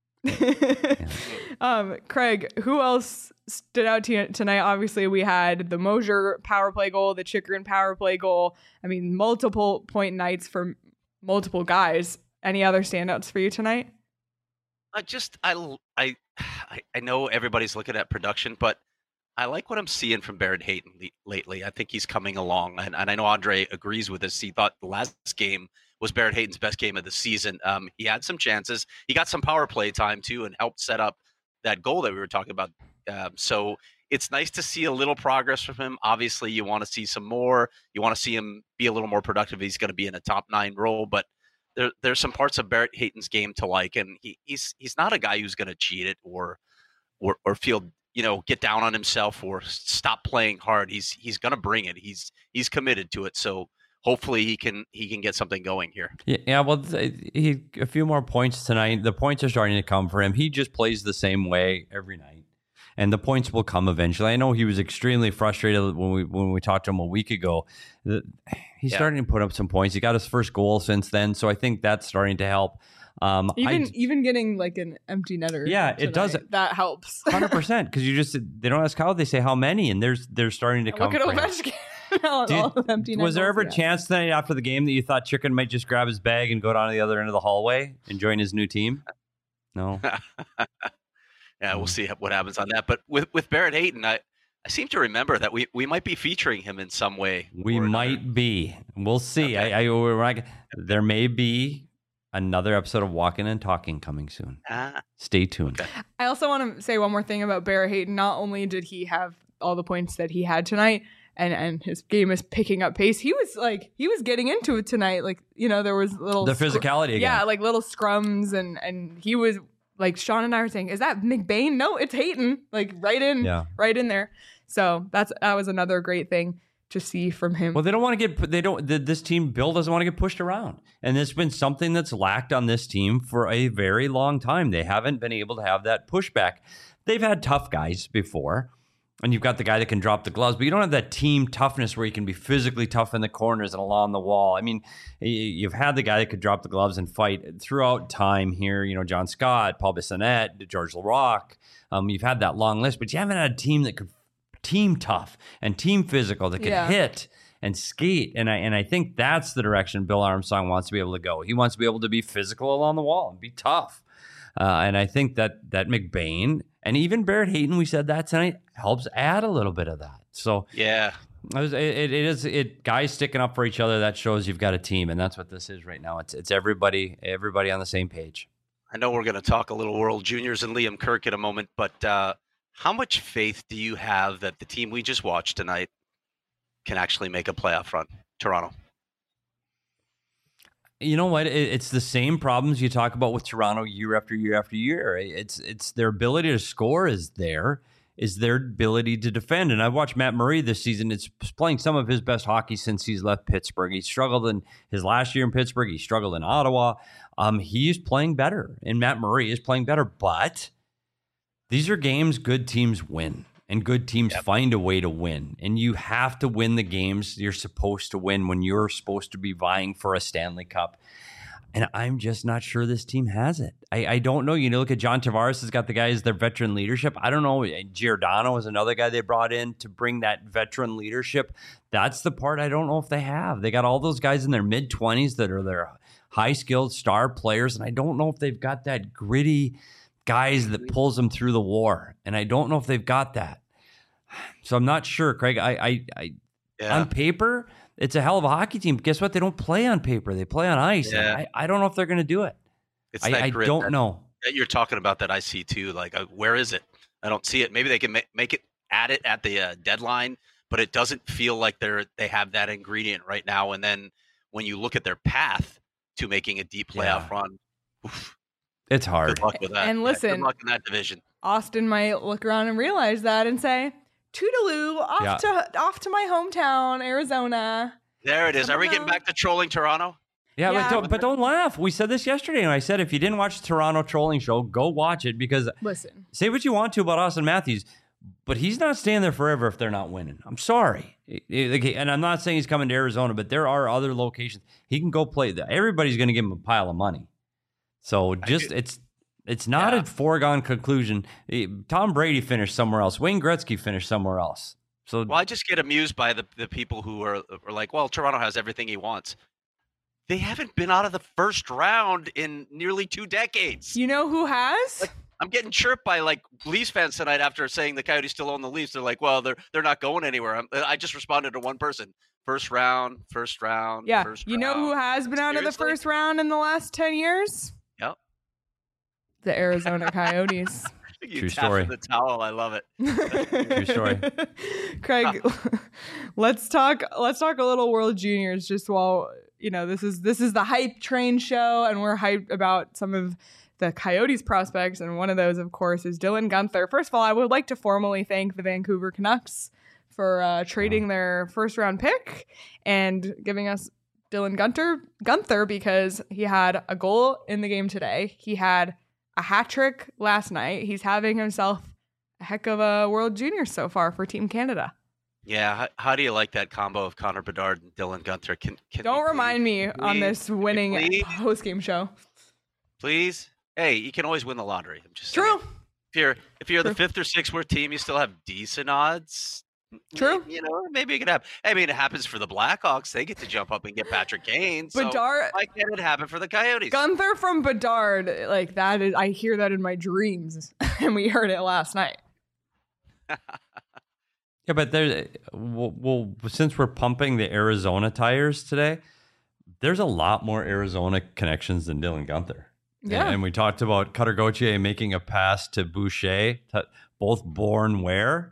um, Craig, who else stood out to you tonight? Obviously, we had the Mosier power play goal, the Chikrin power play goal. I mean, multiple point nights for multiple guys. Any other standouts for you tonight? I just I, l- I I- I know everybody's looking at production, but I like what I'm seeing from Barrett Hayton le- lately. I think he's coming along, and, and I know Andre agrees with this. He thought the last game was Barrett Hayton's best game of the season. Um, he had some chances. He got some power play time too, and helped set up that goal that we were talking about. Um, so it's nice to see a little progress from him. Obviously, you want to see some more. You want to see him be a little more productive. He's going to be in a top nine role, but there, there's some parts of Barrett Hayton's game to like, and he, he's he's not a guy who's going to cheat it or or or feel you know get down on himself or stop playing hard. He's he's going to bring it. He's he's committed to it. So hopefully he can he can get something going here. Yeah, yeah, well, th- he a few more points tonight. The points are starting to come for him. He just plays the same way every night, and the points will come eventually. I know he was extremely frustrated when we when we talked to him a week ago. The- He's Yeah. starting to put up some points. He got his first goal since then, so I think that's starting to help. Um, Even I, even getting like an empty netter. Yeah, it does. tonight, That helps. Hundred percent, because you just they don't ask how, they say how many, and there's they're starting to come. Look at for him. Ovechkin. all, Do you- all of empty Was net there goals ever he a has. chance tonight after the game that you thought Chicken might just grab his bag and go down to the other end of the hallway and join his new team? No. Yeah, we'll see what happens on that. But with with Barrett Hayton, I, I seem to remember that we, we might be featuring him in some way. We or another. might be. We'll see. Okay. I, I we're not, there may be another episode of Walking and Talking coming soon. Ah, Stay tuned. Okay. I also want to say one more thing about Barrett Hayton. Not only did he have all the points that he had tonight, and and his game is picking up pace. He was like he was getting into it tonight. Like you know there was little The scr- physicality again. yeah, like little scrums, and and he was like Sean and I were saying, is that McBain? No, it's Hayton. Like right in, Yeah. right in there. So that's that was another great thing to see from him. Well, they don't want to get. They don't. th- This team, Bill doesn't want to get pushed around, and it's been something that's lacked on this team for a very long time. They haven't been able to have that pushback. They've had tough guys before, and you've got the guy that can drop the gloves, but you don't have that team toughness where you can be physically tough in the corners and along the wall. I mean, y- you've had the guy that could drop the gloves and fight throughout time here. You know, John Scott, Paul Bissonnette, George Larocque. Um, you've had that long list, but you haven't had a team that could team tough and team physical that can Yeah. hit and skate. And I and I think that's the direction Bill Armstrong wants to be able to go. He wants to be able to be physical along the wall and be tough. Uh, and I think that that McBain and even Barrett Hayton, we said that tonight, helps add a little bit of that. So yeah. it, was- it, it is it guys sticking up for each other. That shows you've got a team, and that's what this is right now. It's it's everybody everybody on the same page. I know we're going to talk a little World Juniors and Liam Kirk in a moment, but uh, how much faith do you have that the team we just watched tonight can actually make a playoff run, Toronto? You know what? It, it's the same problems you talk about with Toronto year after year after year. It's it's their ability to score is there, is their ability to defend. And I've watched Matt Murray this season. It's playing some of his best hockey since he's left Pittsburgh. He struggled in his last year in Pittsburgh. He struggled in Ottawa. Um, he's playing better, and Matt Murray is playing better. But these are games good teams win. And good teams Yep. find a way to win. And you have to win the games you're supposed to win when you're supposed to be vying for a Stanley Cup. And I'm just not sure this team has it. I, I don't know. You know, look at John Tavares has got the guys, their veteran leadership. I don't know. Giordano is another guy they brought in to bring that veteran leadership. That's the part I don't know if they have. They got all those guys in their mid-twenties that are their high-skilled star players. And I don't know if they've got that gritty guys that pulls them through the war. And I don't know if they've got that. So I'm not sure, Craig. I, I, I Yeah. on paper, it's a hell of a hockey team. Guess what? They don't play on paper. They play on ice. Yeah. I, I don't know if they're going to do it. It's I, that I grit don't that, know. that you're talking about that I see too. Like, uh, where is it? I don't see it. Maybe they can ma- make it add it at the uh, deadline, but it doesn't feel like they're they have that ingredient right now. And then when you look at their path to making a deep playoff Yeah. run, oof, It's hard. good luck with that. And Yeah, listen- good luck in that division. Austin might look around and realize that and say, "Toodaloo, off Yeah. to off to my hometown, Arizona." There it is. Are we getting Somehow- back to trolling Toronto? Yeah, Yeah. But, don't, but don't laugh. We said this yesterday, and I said if you didn't watch the Toronto trolling show, go watch it because Listen, say what you want to about Austin Matthews, but he's not staying there forever if they're not winning. I'm sorry. It- it- And I'm not saying he's coming to Arizona, but there are other locations. He can go play. Everybody's going to give him a pile of money. So just it's it's not Yeah. a foregone conclusion. Eh, Tom Brady finished somewhere else. Wayne Gretzky finished somewhere else. So Well, I just get amused by the, the people who are, are like, well, Toronto has everything he wants. They haven't been out of the first round in nearly two decades. you know who has? Like, I'm getting chirped by like Leafs fans tonight after saying the Coyotes still own the Leafs. They're like, well, they're they're not going anywhere. I'm, I just responded to one person: first round, first round, Yeah, first you know round. who has been out of the Seriously? first round in the last ten years? Yep. The Arizona Coyotes. You True tap story. in the towel. I love it. True story. Craig, let's talk let's talk a little World Juniors just while, you know, this is this is the hype train show and we're hyped about some of the Coyotes prospects, and one of those, of course, is Dylan Guenther. First of all, I would like to formally thank the Vancouver Canucks for uh, trading their first round pick and giving us Dylan Guenther Guenther because he had a goal in the game today. He had a hat trick last night. He's having himself a heck of a World Junior so far for Team Canada. Yeah. How, how do you like that combo of Connor Bedard and Dylan Guenther? Can, can Don't we remind me on please, this winning please? post-game show. Please? Hey, you can always win the lottery. I'm just True. saying. If you're if you're True. the fifth or sixth worst team, you still have decent odds. True. You know, maybe it could happen. I mean, it happens for the Blackhawks. They get to jump up and get Patrick Kane. So Bedard, why can't it happen for the Coyotes? Guenther from Bedard, like that is, I hear that in my dreams, and we heard it last night. yeah, but there. Well, well, since we're pumping the Arizona tires today, there's a lot more Arizona connections than Dylan Guenther. Yeah. And, and we talked about Cutter Gauthier making a pass to Boucher, t- both born where?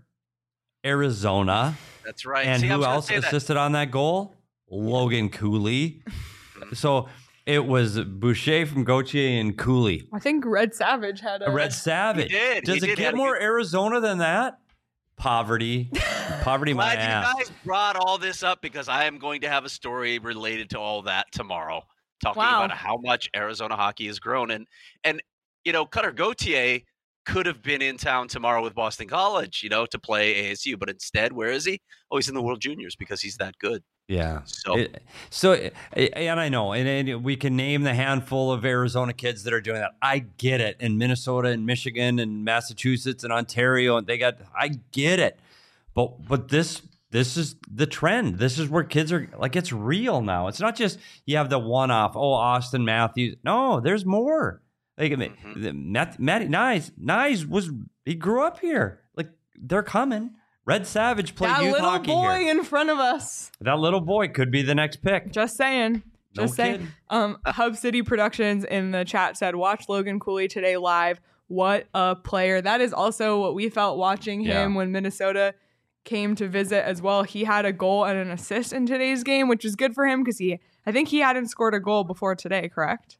Arizona. That's right. And See, I who was gonna else say that. assisted on that goal? Logan Cooley. So it was Boucher from Gauthier and Cooley. I think Red Savage had a Red Savage. He did. Does He it did. He get had a more good- Arizona than that? Poverty. Poverty my Glad ass. you guys brought all this up because I am going to have a story related to all that tomorrow, talking Wow. about how much Arizona hockey has grown. And and you know, Cutter Gauthier could have been in town tomorrow with Boston College, you know, to play A S U, but instead, where is he? Oh, he's in the World Juniors because he's that good. Yeah. So It- so, and I know, and, and we can name the handful of Arizona kids that are doing that. I get it. In Minnesota and Michigan and Massachusetts and Ontario, and they got, I get it. But, but this, this is the trend. This is where kids are like, it's real now. It's not just you have the one off. Oh, Austin Matthews. No, there's more. Like, Mhm. the Matt, Matty Nyes, Nyes was, he grew up here. Like, they're coming. Red Savage played that youth little hockey boy here. in front of us. That little boy could be the next pick. Just saying. No Just saying. kidding. Um, Hub City Productions in the chat said, watch Logan Cooley today live. What a player. That is also what we felt watching him Yeah. when Minnesota came to visit as well. He had a goal and an assist in today's game, which is good for him because he, I think he hadn't scored a goal before today, correct?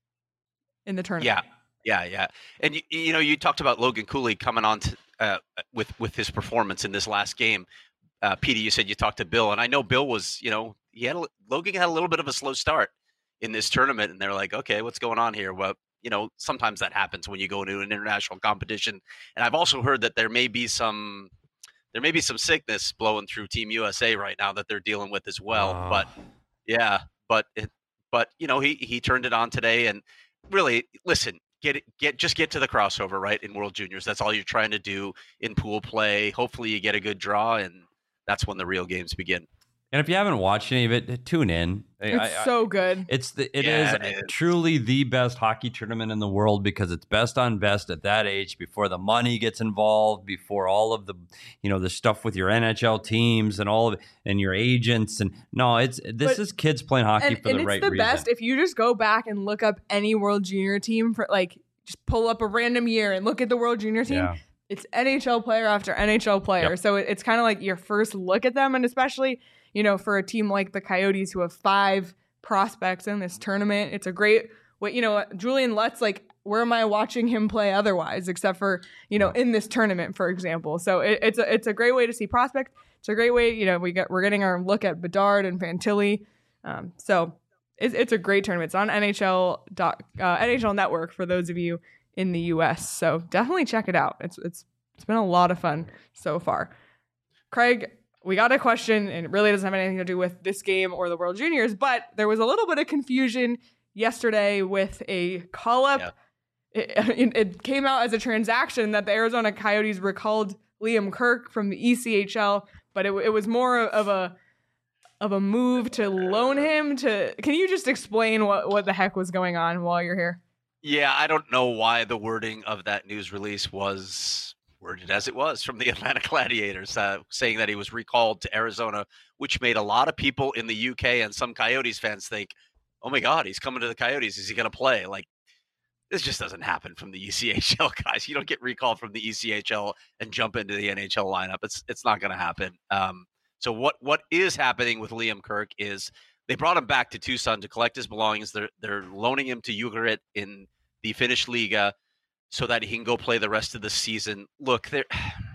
In the tournament. yeah, yeah, yeah. And you, you know, you talked about Logan Cooley coming on to, uh, with with his performance in this last game. Uh, Petey, you said you talked to Bill, and I know Bill was, you know, he had a, Logan had a little bit of a slow start in this tournament, and they're like, okay, what's going on here? Well, you know, sometimes that happens when you go into an international competition. And I've also heard that there may be some there may be some sickness blowing through Team U S A right now that they're dealing with as well. Oh. But yeah, but it, but you know, he he turned it on today, and really, listen, get it, get just get to the crossover, right, in World Juniors. That's all you're trying to do in pool play. Hopefully, you get a good draw, and that's when the real games begin. And if you haven't watched any of it, tune in. I- It's I- I- so good. It's the it Yeah, is it is. truly the best hockey tournament in the world because it's best on best at that age before the money gets involved, before all of the you know the stuff with your N H L teams and all of it, and your agents and no, it's this But- is kids playing hockey And, for and the it's right the reason. best if you just go back and look up any World Junior team for like just pull up a random year and look at the World Junior team. Yeah. it's N H L player after N H L player. Yep. So it, it's kind of like your first look at them. And especially, you know, for a team like the Coyotes who have five prospects in this tournament, it's a great way. You know, Julian Lutz, like, where am I watching him play otherwise, except for, you know, in this tournament, for example. So it, it's a it's a great way to see prospects. It's a great way, you know, we get we're getting our look at Bedard and Fantilli. Um, so it's it's a great tournament. It's on N H L dot, uh, N H L Network for those of you in the U S. So definitely check it out. It's it's it's been a lot of fun so far. Craig, we got a question, and it really doesn't have anything to do with this game or the World Juniors, but there was a little bit of confusion yesterday with a call-up. Yeah. It, it came out as a transaction that the Arizona Coyotes recalled Liam Kirk from the E C H L, but it, it was more of a of a move to loan him to. Can you just explain what, what the heck was going on while you're here? Yeah, I don't know why the wording of that news release was worded as it was from the Atlanta Gladiators, uh, saying that he was recalled to Arizona, which made a lot of people in the U K and some Coyotes fans think, oh my God, he's coming to the Coyotes. Is he going to play? Like, this just doesn't happen from the E C H L, guys. You don't get recalled from the E C H L and jump into the N H L lineup. It's it's not going to happen. Um, so what what is happening with Liam Kirk is they brought him back to Tucson to collect his belongings. They're they're loaning him to Ugarit in the Finnish Liga so that he can go play the rest of the season. Look, there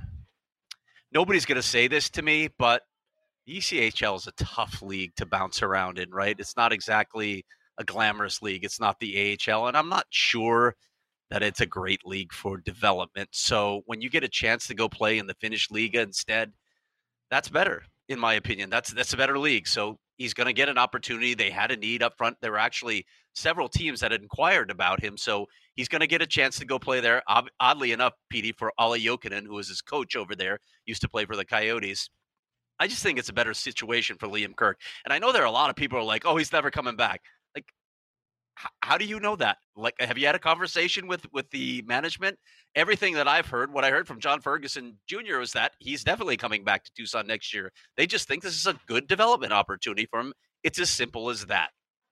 nobody's going to say this to me, but the E C H L is a tough league to bounce around in, right? It's not exactly a glamorous league. It's not the A H L, and I'm not sure that it's a great league for development. So when you get a chance to go play in the Finnish Liga instead, that's better, in my opinion. That's that's a better league. So he's going to get an opportunity. They had a need up front. There were actually several teams that had inquired about him, so he's going to get a chance to go play there. Oddly enough, P D, for Olli Jokinen, who was his coach over there, used to play for the Coyotes. I just think it's a better situation for Liam Kirk. And I know there are a lot of people who are like, oh, he's never coming back. Like, h- how do you know that? Like, have you had a conversation with, with the management? Everything that I've heard, what I heard from John Ferguson Junior is that he's definitely coming back to Tucson next year. They just think this is a good development opportunity for him. It's as simple as that.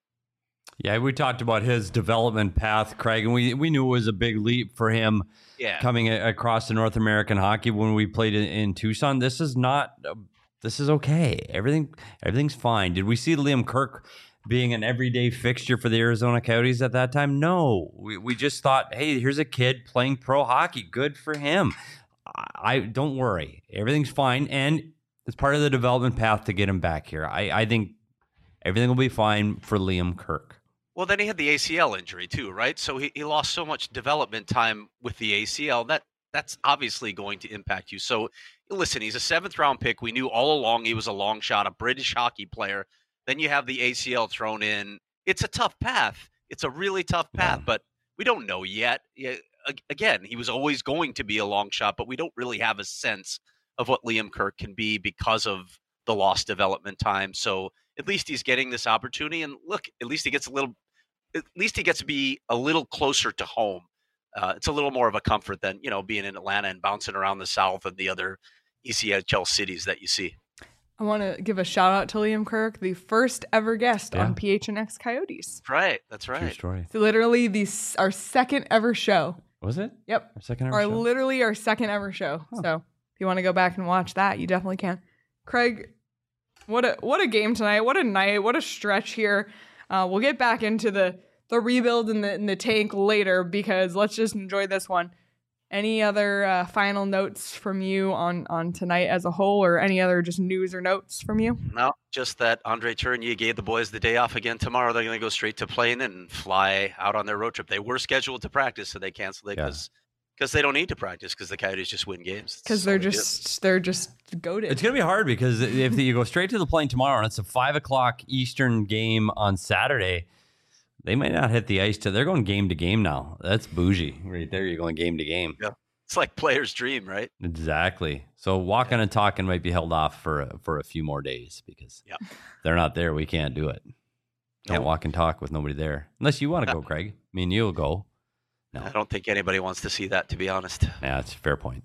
Yeah, we talked about his development path, Craig, and we, we knew it was a big leap for him yeah. coming a- across the North American hockey when we played in, in Tucson. This is not, uh, this is okay. Everything everything's fine. Did we see Liam Kirk being an everyday fixture for the Arizona Coyotes at that time? No. We, we just thought, hey, here's a kid playing pro hockey. Good for him. I, I don't worry. Everything's fine, and it's part of the development path to get him back here. I, I think everything will be fine for Liam Kirk. Well, then he had the A C L injury too, right? So he, he lost so much development time with the A C L. That that's obviously going to impact you. So listen, he's a seventh round pick. We knew all along he was a long shot, a British hockey player. Then you have the A C L thrown in. It's a tough path. It's a really tough path, yeah. But we don't know yet. Again, he was always going to be a long shot, but we don't really have a sense of what Liam Kirk can be because of the lost development time. So at least he's getting this opportunity. And look, at least he gets a little At least he gets to be a little closer to home. Uh, it's a little more of a comfort than, you know, being in Atlanta and bouncing around the South and the other E C H L cities that you see. I want to give a shout out to Liam Kirk, the first ever guest yeah. on P H N X Coyotes. That's right. That's right. True story. It's literally the, our second ever show. Was it? Yep. Our second ever our, show? Literally our second ever show. Huh. So if you want to go back and watch that, you definitely can. Craig, what a what a game tonight. What a night. What a stretch here. Uh, we'll get back into the the rebuild in the in the tank later, because let's just enjoy this one. Any other uh, final notes from you on, on tonight as a whole, or any other just news or notes from you? No, just that Andre Tourigny gave the boys the day off again tomorrow. They're going to go straight to plane and fly out on their road trip. They were scheduled to practice, so they canceled it because yeah. because they don't need to practice, because the Coyotes just win games. Because they're just they're just goated. It's going to be hard, because if you go straight to the plane tomorrow and it's a five o'clock Eastern game on Saturday, they might not hit the ice till they're going game to game now. That's bougie right there. You're going game to game. Yeah, it's like player's dream, right? Exactly. So walking yeah. and talking might be held off for a, for a few more days, because yeah. they're not there. We can't do it. Can't nope. walk and talk with nobody there, unless you want to go, Craig. I mean, you'll go. No, I don't think anybody wants to see that, to be honest. Yeah, that's a fair point.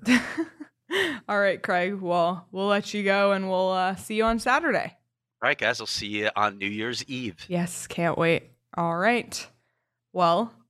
All right, Craig. Well, we'll let you go, and we'll uh, see you on Saturday. All right, guys. I'll see you on New Year's Eve. Yes, can't wait. All right. Well,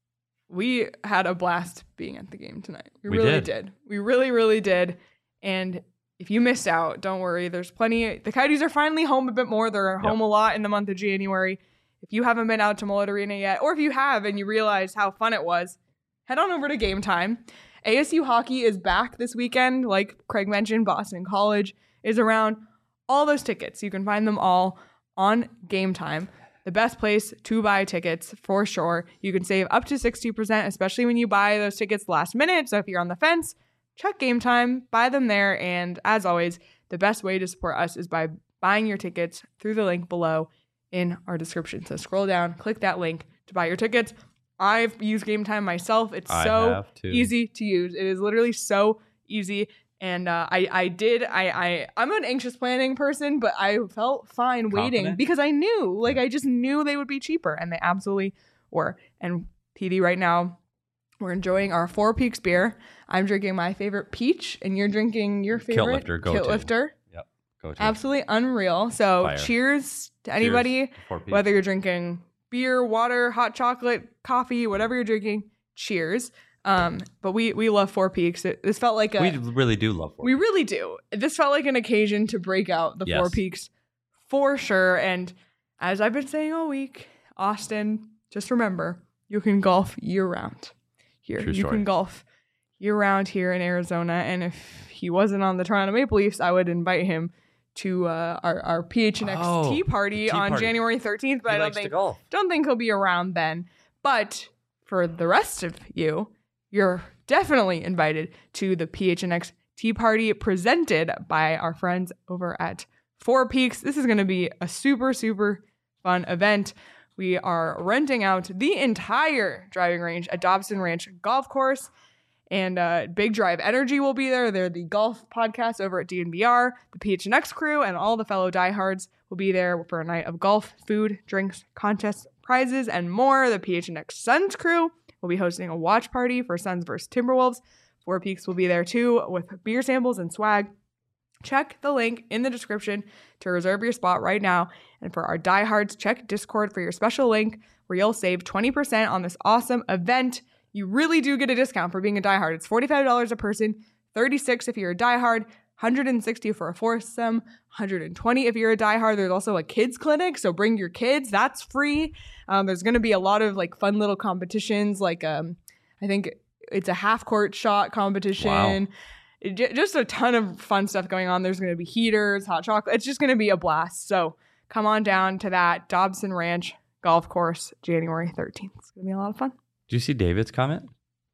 we had a blast being at the game tonight. We, We really did. did. We really, really did. And if you missed out, don't worry. There's plenty. The Coyotes are finally home a bit more. They're home Yep. a lot in the month of January. If you haven't been out to Mullet Arena yet, or if you have and you realize how fun it was, head on over to Game Time. A S U hockey is back this weekend. Like Craig mentioned, Boston College is around. All those tickets, you can find them all on Game Time. The best place to buy tickets for sure. You can save up to sixty percent, especially when you buy those tickets last minute. So if you're on the fence, check Game Time, buy them there. And as always, the best way to support us is by buying your tickets through the link below in our description. So scroll down, click that link to buy your tickets. I've used Game Time myself. It's I so have too. easy to use. It is literally so easy. And uh, I, I did, I, I, I'm an anxious planning person, but I felt fine waiting Confident? because I knew, like, I just knew they would be cheaper, and they absolutely were. And P D, right now, we're enjoying our Four Peaks beer. I'm drinking my favorite peach, and you're drinking your favorite Lifter, go Kilt to. Lifter. Yep. Go to. Absolutely unreal. So Fire. cheers to anybody, Cheers. Four Peaks. whether you're drinking beer, water, hot chocolate, coffee, whatever you're drinking, cheers. Um, but we we love Four Peaks. It, this felt like a we really do love Four we Peaks. really do. This felt like an occasion to break out the Yes. Four Peaks for sure. And as I've been saying all week, Austin, just remember, you can golf year round here. True you story. can golf year round here in Arizona. And if he wasn't on the Toronto Maple Leafs, I would invite him to uh, our, our P H N X Oh, tea party tea on party. January thirteenth. But He I don't likes to think golf. don't think he'll be around then. But for the rest of you, you're definitely invited to the P H N X Tea Party presented by our friends over at Four Peaks. This is going to be a super, super fun event. We are renting out the entire driving range at Dobson Ranch Golf Course. And uh, Big Drive Energy will be there. They're the golf podcast over at D N V R. The P H N X crew and all the fellow diehards will be there for a night of golf, food, drinks, contests, prizes, and more. The P H N X Suns crew will be hosting a watch party for Suns versus Timberwolves. Four Peaks will be there too with beer samples and swag. Check the link in the description to reserve your spot right now. And for our diehards, check Discord for your special link where you'll save twenty percent on this awesome event. You really do get a discount for being a diehard. It's forty-five dollars a person, thirty-six dollars if you're a diehard, one hundred sixty dollars for a foursome, one hundred twenty dollars if you're a diehard. There's also a kids clinic, so bring your kids. That's free. Um, there's going to be a lot of like fun little competitions, like um, I think it's a half court shot competition. Wow. It, j- just a ton of fun stuff going on. There's going to be heaters, hot chocolate. It's just going to be a blast. So come on down to that Dobson Ranch Golf Course, January thirteenth. It's going to be a lot of fun. Do you see David's comment?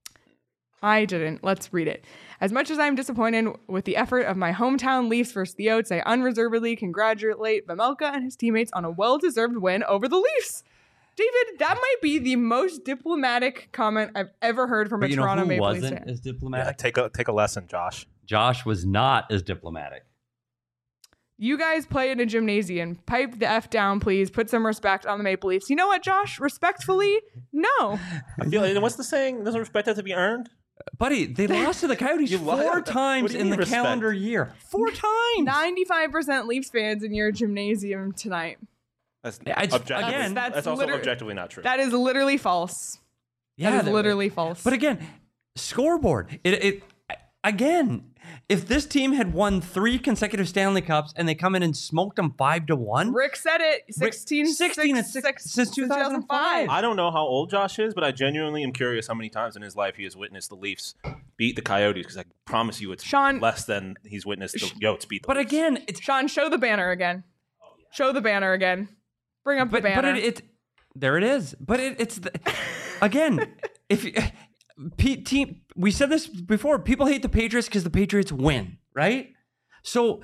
I didn't. Let's read it. As much as I'm disappointed with the effort of my hometown Leafs versus the Oats, I unreservedly congratulate Vemelka and his teammates on a well-deserved win over the Leafs. David, that might be the most diplomatic comment I've ever heard from But a you know Toronto who Maple Leafs wasn't fan. as Yeah, diplomatic? take a take a lesson, Josh. Josh was not as diplomatic. You guys play in a gymnasium. Pipe the F down, please. Put some respect on the Maple Leafs. You know what, Josh? Respectfully, no. I feel. And what's the saying? Doesn't respect have to be earned? Buddy, they lost to the Coyotes You lied. four What do times you in mean the respect? calendar year. Four times. ninety-five percent Leafs fans in your gymnasium tonight. That's Yeah, it's- objectively. again- that's, That's also liter- objectively not true. That is literally false. Yeah, that is they- literally false. But again, scoreboard. It, it again. If this team had won three consecutive Stanley Cups and they come in and smoked them five to one, Rick said it. sixteen, sixteen six, and six, six- since two thousand five. I don't know how old Josh is, but I genuinely am curious how many times in his life he has witnessed the Leafs beat the Coyotes. Because I promise you, it's Sean- less than he's witnessed the Yotes beat the but Leafs. again, it's Sean, show the banner again. Show the banner again. Bring up but the but banner. it, it there it is. But it, it's the, again, if you- P, team, we said this before. People hate the Patriots because the Patriots win, right? So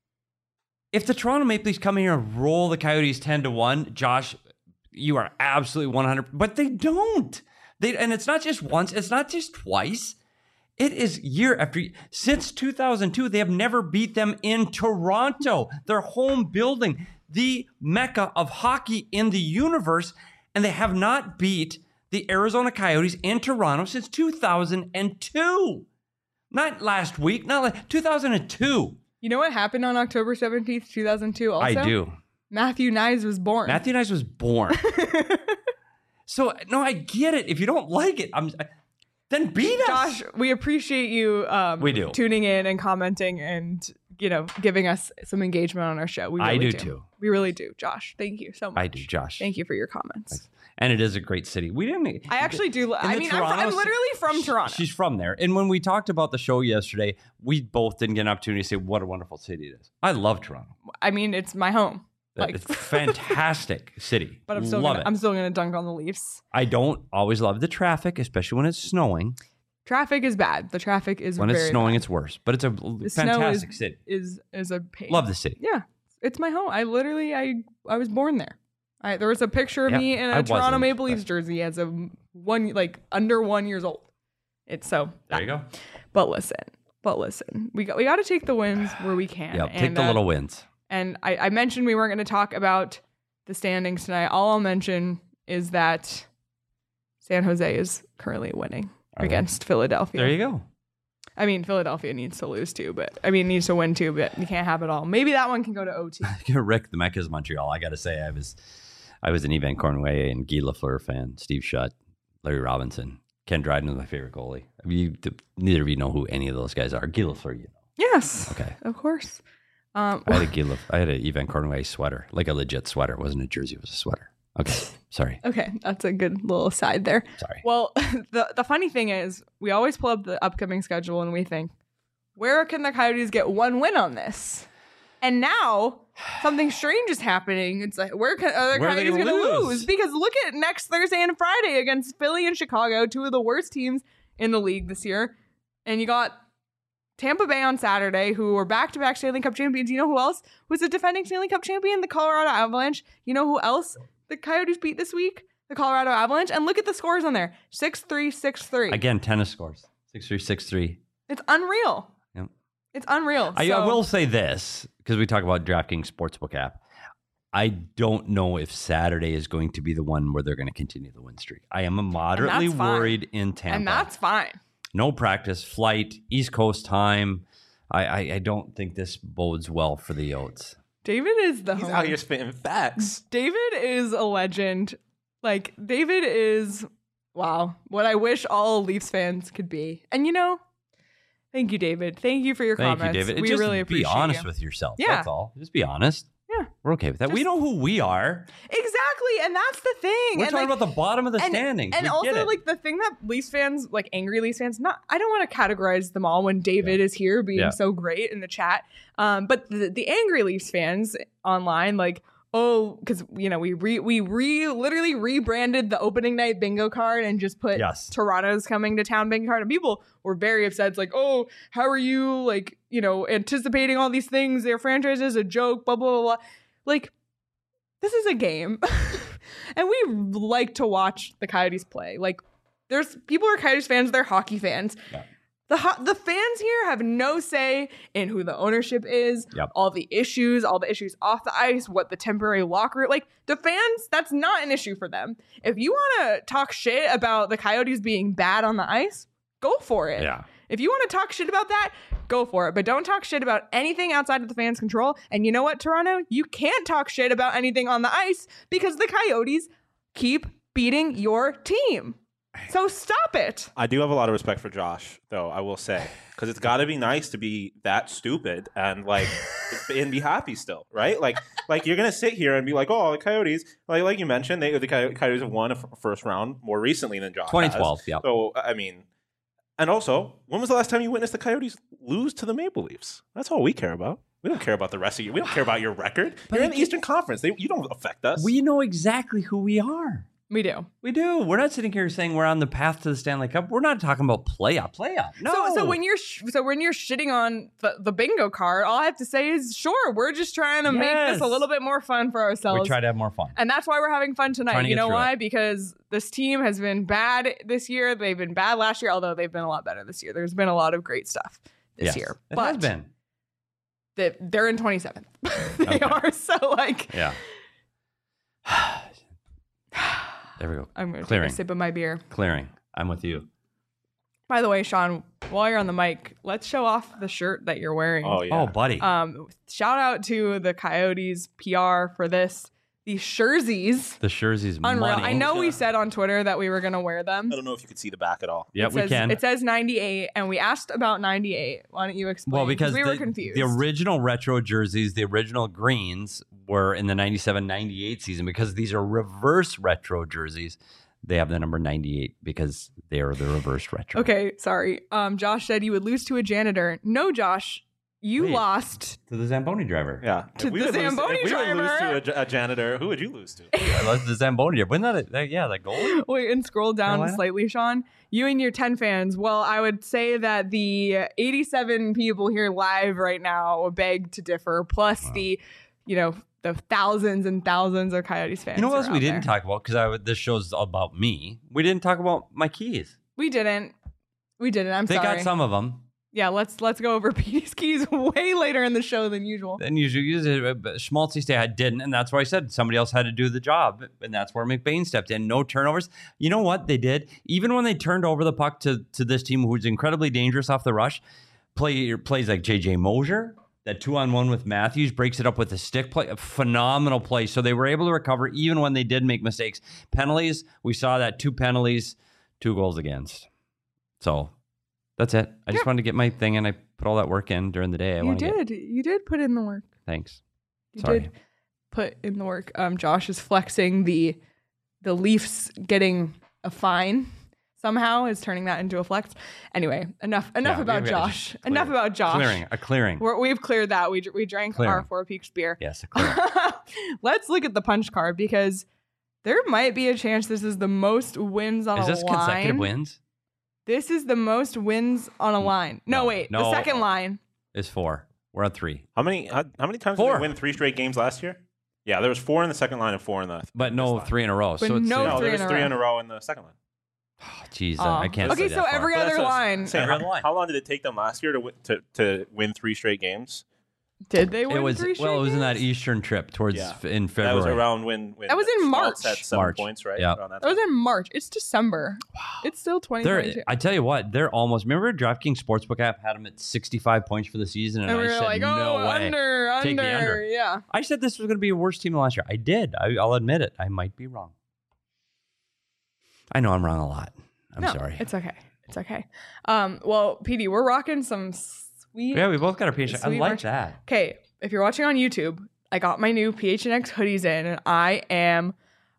if the Toronto Maple Leafs come in here and roll the Coyotes ten to one, Josh, you are absolutely one hundred. But they don't. They and it's not just once. It's not just twice. It is year after year. Since two thousand two, they have never beat them in Toronto, their home building, the mecca of hockey in the universe, and they have not beat the Arizona Coyotes in Toronto since two thousand two. Not last week, not like two thousand two. you know what happened on October seventeenth, two thousand two also? I do. Matthew Nyes was born. Matthew Nyes was born. So no, I get it. If you don't like it, I'm then beat us. Josh, we appreciate you um, We do. tuning in and commenting and, you know, giving us some engagement on our show. We really I do, do too. We really do. Josh, thank you so much. I do, Josh. Thank you for your comments. And it is a great city. We didn't. I actually do. in I the mean, I'm, fr- Toronto I'm ci- literally from Toronto. She's from there. And when we talked about the show yesterday, we both didn't get an opportunity to say what a wonderful city it is. I love Toronto. I mean, it's my home. Like, It's a fantastic city. but I'm still love gonna, it. I'm still gonna dunk on the Leafs. I don't always love the traffic, especially when it's snowing. Traffic is bad. The traffic is When very it's snowing, bad. it's worse. But it's a The snow fantastic is, city. is is a pain. Love the city. Yeah, it's my home. I literally, I I was born there. I, there was a picture of Yep, me in I a Toronto wasn't, Maple but- Leafs jersey as a one, like under one years old. It's so. There you go. But listen, but listen, we got we got to take the wins where we can. Yep. Take and, the uh, little wins. And I, I mentioned we weren't going to talk about the standings tonight. All I'll mention is that San Jose is currently winning Are they? against Philadelphia. There you go. I mean, Philadelphia needs to lose too, but I mean, needs to win too, but you can't have it all. Maybe that one can go to O T. Rick, the Mecca's Montreal. I got to say, I was, I was an Evan Cornway and Guy Lafleur fan. Steve Shutt, Larry Robinson, Ken Dryden was my favorite goalie. I mean, you, neither of you know who any of those guys are. Guy Lafleur, you know. Yes. Okay. Of course. Um, I had a Guy Laf- I had an Evan Cornway sweater, like a legit sweater. It wasn't a jersey; it was a sweater. Okay, sorry, okay, that's a good little aside there. sorry. Well, the the funny thing is, we always pull up the upcoming schedule and we think, where can the Coyotes get one win on this? And now something strange is happening. It's like, where can are the Where are they Coyotes going gonna to lose? lose? Because look at next Thursday and Friday against Philly and Chicago, two of the worst teams in the league this year. And you got Tampa Bay on Saturday, who were back-to-back Stanley Cup champions. You know who else was the defending Stanley Cup champion? The Colorado Avalanche. You know who else the Coyotes beat this week? The Colorado Avalanche. And look at the scores on there. six three, six three. Again, tennis scores six three six three. It's unreal. Yep. It's unreal. I, I So- will say this because we talk about DraftKings Sportsbook app. I don't know if Saturday is going to be the one where they're going to continue the win streak. I am moderately that's fine. worried in Tampa. And that's fine. No practice, flight, East Coast time. I, I, I don't think this bodes well for the Yotes. David is the He's home. out here spitting facts. David is a legend. Like, David is, wow, what I wish all Leafs fans could be. And you know, thank you, David. Thank you for your Thank comments. you, David. We Just really be appreciate honest you. with yourself. Yeah. That's all. Just be honest. Yeah. We're okay with that. we Just- know who we are. Exactly. And that's the thing. We're and talking like, about the bottom of the and, standings. And we also, get it. like, the thing that Leafs fans, like angry Leafs fans, not I don't want to categorize them all when David is here being Yeah. so great in the chat. Um, but the, the angry Leafs fans online, like, oh, because you know we re we re literally rebranded the opening night bingo card and just put Yes. Toronto's coming to town bingo card, and people were very upset. It's like, oh, how are you like you know anticipating all these things? Their franchise is a joke. Blah blah blah. blah. Like, this is a game. And we like to watch the Coyotes play. Like, there's people who are Coyotes fans, they're hockey fans. Yeah. The ho- the fans here have no say in who the ownership is, Yep. all the issues, all the issues off the ice, what the temporary locker, like the fans, that's not an issue for them. If you want to talk shit about the Coyotes being bad on the ice, go for it. yeah. If you want to talk shit about that, go for it. But don't talk shit about anything outside of the fans' control. And you know what, Toronto? You can't talk shit about anything on the ice because the Coyotes keep beating your team. So stop it. I do have a lot of respect for Josh, though, I will say, because it's got to be nice to be that stupid and like and be happy still, right? Like, like you're gonna sit here and be like, "Oh, the Coyotes," like like you mentioned, they the Coy- Coyotes have won a f- first round more recently than Josh. twenty has. twelve, yeah. So I mean, and also, when was the last time you witnessed the Coyotes lose to the Maple Leafs? That's all we care about. We don't care about the rest of you. We don't care about your record. But You're in it- the Eastern Conference. They, you don't affect us. We know exactly who we are. We do. We do. We're not sitting here saying we're on the path to the Stanley Cup. We're not talking about playoff. Playoff. No. So, so when you're sh- so when you're shitting on the, the bingo card, all I have to say is, sure, we're just trying to make Yes. this a little bit more fun for ourselves. we try to have more fun. And that's why we're having fun Trying tonight. to You get know through why? it. Because this team has been bad this year. They've been bad last year, although they've been a lot better this year. There's been a lot of great stuff this Yes, year. It but has been. they- they're in twenty-seventh. They Okay. are. So, like, Yeah. There we go. I'm going to take Clearing. a sip of my beer. Clearing. I'm with you. By the way, Sean, while you're on the mic, let's show off the shirt that you're wearing. oh yeah. Oh, buddy. Um, shout out to the Coyotes P R for this. the jerseys. The jerseys, Unreal. money. I know we said on Twitter that we were going to wear them. I don't know if you could see the back at all. Yeah, it we says, can. It says ninety-eight, and we asked about ninety-eight. Why don't you explain? Well, because we the, were confused. the original retro jerseys, the original greens, were in the ninety-seven ninety-eight season. Because these are reverse retro jerseys, they have the number ninety-eight because they are the reverse retro. Okay, sorry. Um, Josh said you would lose to a janitor. No, Josh, you Wait. lost. To the Zamboni driver. Yeah. To if we the would lose, Zamboni if we would lose driver. to a, a janitor, who would you lose to? I love the Zamboni driver. Wasn't that, a, that yeah, that goal? Wait, and scroll down Carolina? slightly, Sean. You and your ten fans. Well, I would say that the eighty-seven people here live right now beg to differ, plus Wow. the, you know, the thousands and thousands of Coyotes fans. You know what who else are we out didn't there. talk about? Because this show's about me. We didn't talk about my keys. We didn't. We didn't. I'm they sorry. got some of them. Yeah, let's let's go over Petey's keys way later in the show than usual. And usually use it. But Schmaltzy stay I didn't, and that's why I said somebody else had to do the job, and that's where McBain stepped in. No turnovers. You know what they did? Even when they turned over the puck to to this team, who's incredibly dangerous off the rush, play plays like J J Mosier, that two on one with Matthews, breaks it up with a stick play, a phenomenal play. So they were able to recover even when they did make mistakes. Penalties, we saw that two penalties, two goals against. So that's it. I just Yeah. wanted to get my thing, and I put all that work in during the day. I You want to did. Get, You did put in the work. thanks. You Sorry. did put in the work. Um, Josh is flexing the the Leafs getting a fine somehow is turning that into a flex. Anyway, enough enough Yeah, about we gotta Josh. just Enough clear- about Josh. Clearing, a clearing. We're, we've cleared that. We dr- we drank our Clearing. Four Peaks beer. yes, a clearing. Let's look at the punch card because there might be a chance this is the most wins on Is a this line. consecutive wins? This is the most wins on a line. No, no, wait. The no. second line. It's four. We're on three. How many how, how many times Four. did they win three straight games last year? Yeah, there was four in the second line and four in the But no this line. three in a row. But so it's no No, three there was in a three row. in a row in the second line. Jeez, Aw. I can't. Okay, say so that every far. But that's other what I was line. saying. Every How, other line. how long did it take them last year to win, to to win three straight games? Did they win It was three straight well. It was in that games? Eastern trip towards Yeah. in That February. was around when, when That was in Schmaltz March. had seven March. points, right? Yeah. Around that That was time. in March. It's December. Wow. It's still twenty twenty-two. They're, I tell you what, they're almost. Remember, DraftKings Sportsbook app had them at sixty-five points for the season, and, And we I were said like, no oh, way. under, Take under. the under. Yeah. I said this was going to be a worse team than last year. I did. I, I'll admit it. I might be wrong. I know I'm wrong a lot. I'm no, sorry. It's okay. It's okay. Um, well, P D, we're rocking some sweet. Yeah, we both got our P H. I Sweet like merch. that. Okay, if you're watching on YouTube, I got my new P H N X hoodies in, and I am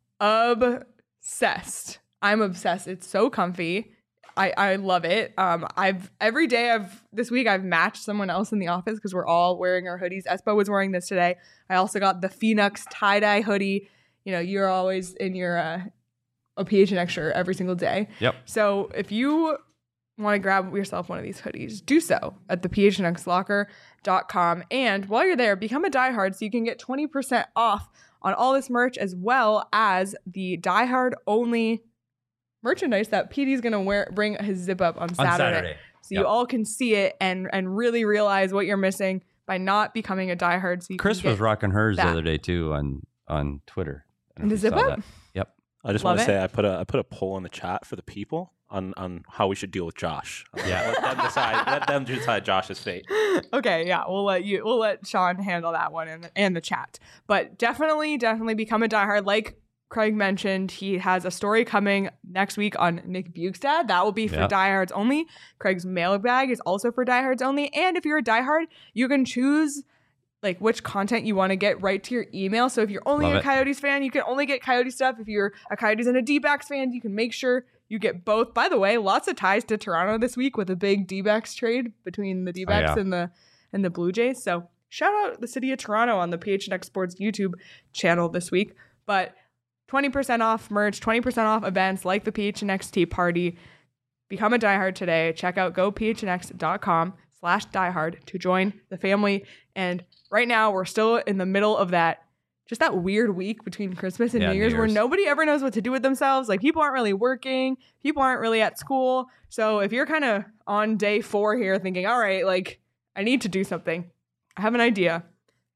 obsessed. I'm obsessed. It's so comfy. I, I love it. Um, I've every day I've this week I've matched someone else in the office because we're all wearing our hoodies. Espo was wearing this today. I also got the Phoenix tie dye hoodie. You know, you're always in your uh, a P H N X shirt every single day. Yep. So if you want to grab yourself one of these hoodies, do so at the p h n x locker dot com. And while you're there, become a diehard so you can get twenty percent off on all this merch as well as the diehard only merchandise that P D's going to wear bring his zip up on Saturday. On Saturday. So you Yep. all can see it and and really realize what you're missing by not becoming a diehard. So you Chris can was get, rocking hers that. the other day too on on Twitter. I don't know The if you zip saw up? that. Yep. I just Love want to it. say I put a I put a poll in the chat for the people on, on how we should deal with Josh. Yeah. let them decide. Let them decide Josh's fate. Okay, yeah, we'll let you we'll let Sean handle that one and and the chat. But definitely, definitely become a diehard. Like Craig mentioned, he has a story coming next week on Nick Bukestad. That will be for Yeah. diehards only. Craig's mailbag is also for diehards only. And if you're a diehard, you can choose like which content you want to get right to your email. So if you're only Love a it. Coyotes fan, you can only get Coyote stuff. If you're a Coyotes and a D-backs fan, you can make sure you get both. By the way, lots of ties to Toronto this week with a big D-backs trade between the D-backs Oh, yeah. and the and the Blue Jays. So shout out the city of Toronto on the P H N X Sports YouTube channel this week. But twenty percent off merch, twenty percent off events like the P H N X Tea Party. Become a diehard today. Check out go p h n x dot com slash diehard to join the family. And right now we're still in the middle of that, just that weird week between Christmas and Yeah, New New Year's where Year's. nobody ever knows what to do with themselves. Like people aren't really working. People aren't really at school. So if you're kind of on day four here thinking, all right, like I need to do something. I have an idea.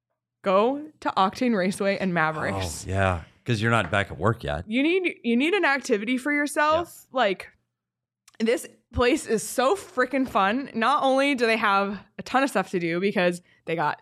Go to Octane Raceway and Mavericks. Oh, yeah. Because you're not back at work yet. You need you need an activity for yourself. Like this place is so freaking fun. Not only do they have a ton of stuff to do because they got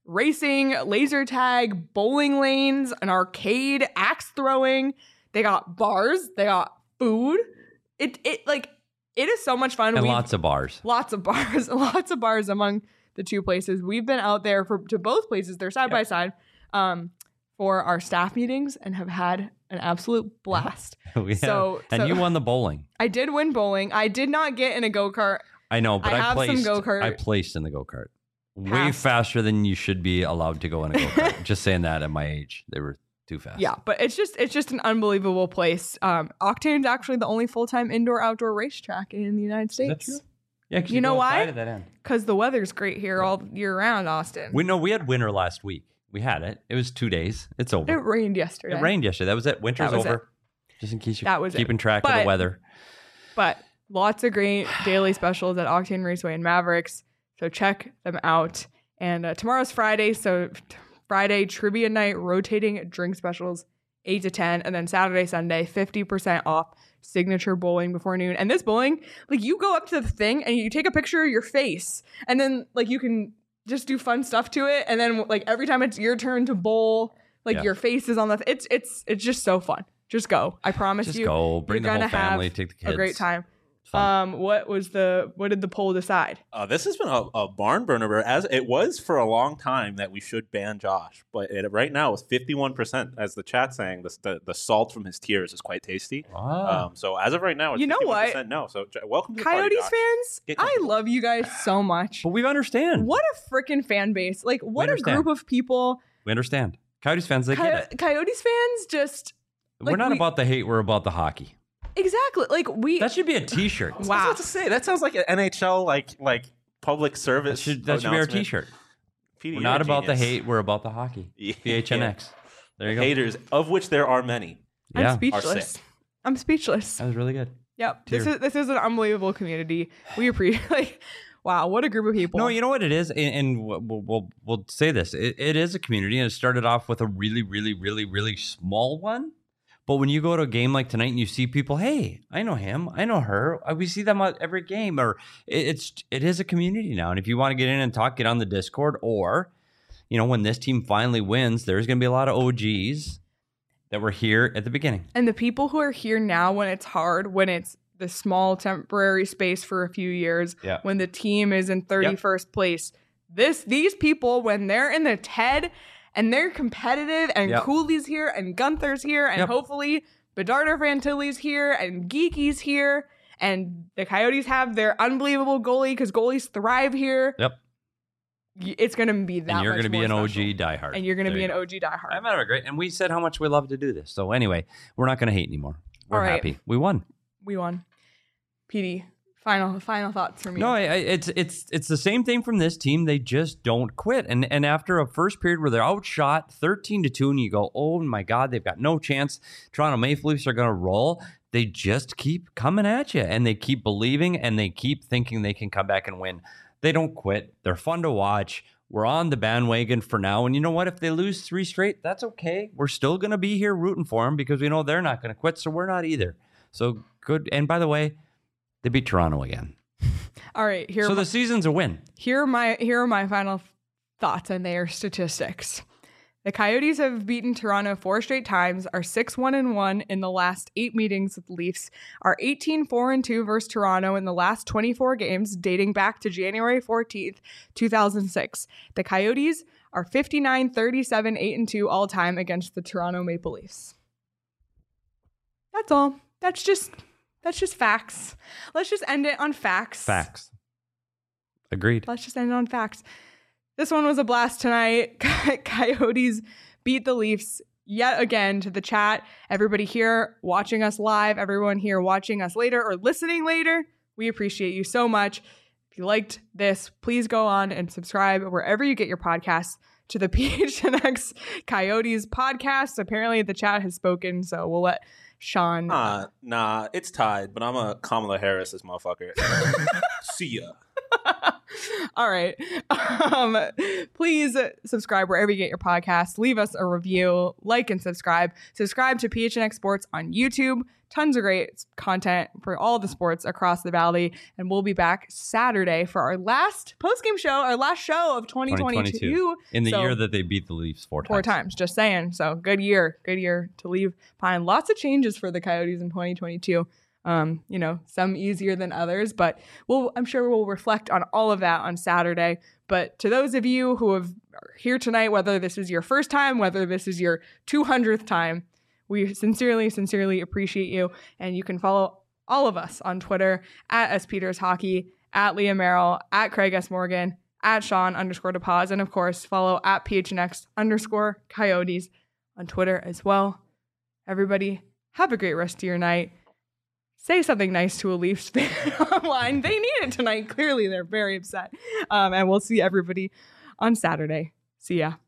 racing, laser tag, bowling lanes, an arcade, axe throwing. They got bars. They got food. It it like it is so much fun. And We've- lots of bars. Lots of bars. Lots of bars among the two places. We've been out there for to both places. They're side by side um, for our staff meetings and have had an absolute blast. Yeah. So- and so- you won the bowling. I did win bowling. I did not get in a go-kart. I know, but I I, have some placed. go-kart. I placed in the go kart. Way Passed. faster than you should be allowed to go in a go kart. Just saying that at my age, they were too fast. Yeah, but it's just it's just an unbelievable place. Um, Octane's actually the only full-time indoor-outdoor racetrack in the United Is that States. true? Yeah, 'cause You know go why? outside at that end. Because the weather's great here all year round, Austin. We know we had winter last week. We had it. It was two days. It's over. It rained yesterday. It rained yesterday. That was it. Winter's That was over. Just in case you're That was it. keeping track of But- the weather. But lots of great daily specials at Octane Raceway and Mavericks. So check them out. And uh, tomorrow's Friday. So t- Friday, trivia night, rotating drink specials, eight to ten. And then Saturday, Sunday, fifty percent off signature bowling before noon. And this bowling, like you go up to the thing and you take a picture of your face. And then like you can just do fun stuff to it. And then like every time it's your turn to bowl, like Yeah. your face is on the, th- it's, it's, it's just so fun. Just go. I promise Just you. go. Bring the you're whole gonna have family. Take the kids. A great time. It's fun. Um, what was the what did the poll decide? Uh, this has been a, a barn burner, as it was for a long time that we should ban Josh, but it, right now it's fifty-one percent. As the chat saying, the, the the salt from his tears is quite tasty. Ah. Um, so as of right now, it's You know fifty-one what? percent no. So J- welcome to the Coyotes party, Josh. fans, Get I comfortable. love you guys so much. but we understand. What a freaking fan base! Like, what a understand. group of people. We understand. Coyotes fans, they Coy- get it. Coyotes fans just we're like, not we- about the hate. We're about the hockey. exactly like we. That should be a T-shirt. I was wow. about to say that sounds like an N H L like like public That service. should, that should be our announcement. T-shirt. P D, We're you're not a about the genius. hate. We're about the hockey. Yeah. P H N X. There you go. Haters, of which there are many. I'm Yeah, Are speechless. sick. I'm speechless. that was really good. Yep. This Tear. is this is an unbelievable community. We appreciate. Like, wow, what a group of people. No, you know what it is, and, and we'll, we'll we'll say this: it, it is a community, and it started off with a really, really, really, really small one. But when you go to a game like tonight and you see people, hey, I know him, I know her, uh, we see them at every game, or it, it's it is a community now. And if you want to get in and talk, get on the Discord, or you know, when this team finally wins, there's going to be a lot of O Gs that were here at the beginning. And the people who are here now when it's hard, when it's the small temporary space for a few years, Yeah. when the team is in thirty-first place, this these people, when they're in the T E D and they're competitive and Yep. Cooley's here and Gunther's here and Yep. hopefully Bedard or Fantilli's here and Geeky's here and the Coyotes have their unbelievable goalie because goalies thrive here. Yep. y- It's going to be that And you're going to be an special. O G diehard. And you're going to There be you an go. O G diehard. I'm having a great, and we said how much we love to do this. So anyway, we're not going to hate anymore. We're All right. happy. We won. We won. P D, final final thoughts from you. No, I, I, it's it's it's the same thing from this team. They just don't quit. And and after a first period where they're outshot thirteen to two, and you go, oh my God, they've got no chance. Toronto Maple Leafs are going to roll. They just keep coming at you, and they keep believing, and they keep thinking they can come back and win. They don't quit. They're fun to watch. We're on the bandwagon for now. And you know what? If they lose three straight, that's okay. We're still going to be here rooting for them because we know they're not going to quit. So we're not either. So good. And by the way, they beat Toronto again. All right, here So are the my, season's a win. here are my here are my final thoughts and their statistics. The Coyotes have beaten Toronto four straight times, are six one and one in the last eight meetings with the Leafs, are eighteen four and two versus Toronto in the last twenty-four games dating back to January fourteenth, two thousand six. The Coyotes are fifty-nine thirty-seven eight and two all time against the Toronto Maple Leafs. That's all. That's just that's just facts. Let's just end it on facts. Facts. Agreed. Let's just end it on facts. This one was a blast tonight. Coyotes beat the Leafs yet again. To the chat, everybody here watching us live, everyone here watching us later or listening later, we appreciate you so much. If you liked this, please go on and subscribe wherever you get your podcasts to the P H N X Coyotes podcast. Apparently the chat has spoken, so we'll let Sean. Nah, nah, it's tied, but I'm a Kamala Harris this motherfucker. See ya. All right. Um, please subscribe wherever you get your podcasts. Leave us a review, like and subscribe. Subscribe to P H N X Sports on YouTube. Tons of great content for all the sports across the valley. And we'll be back Saturday for our last postgame show, our last show of twenty twenty-two. In the So, year that they beat the Leafs four times. Four times, just saying. So good year. Good year to leave behind. Lots of changes for the Coyotes in twenty twenty-two. Um, you know, some easier than others, but we'll, I'm sure we'll reflect on all of that on Saturday. But to those of you who have are here tonight, whether this is your first time, whether this is your two hundredth time, we sincerely, sincerely appreciate you. And you can follow all of us on Twitter at S Peters Hockey, at Leah Merrill, at Craig S. Morgan, at Sean underscore DePaz, and of course, follow at P H N X underscore Coyotes on Twitter as well. Everybody, have a great rest of your night. Say something nice to a Leafs fan online. They need it tonight. Clearly, they're very upset. Um, and we'll see everybody on Saturday. See ya.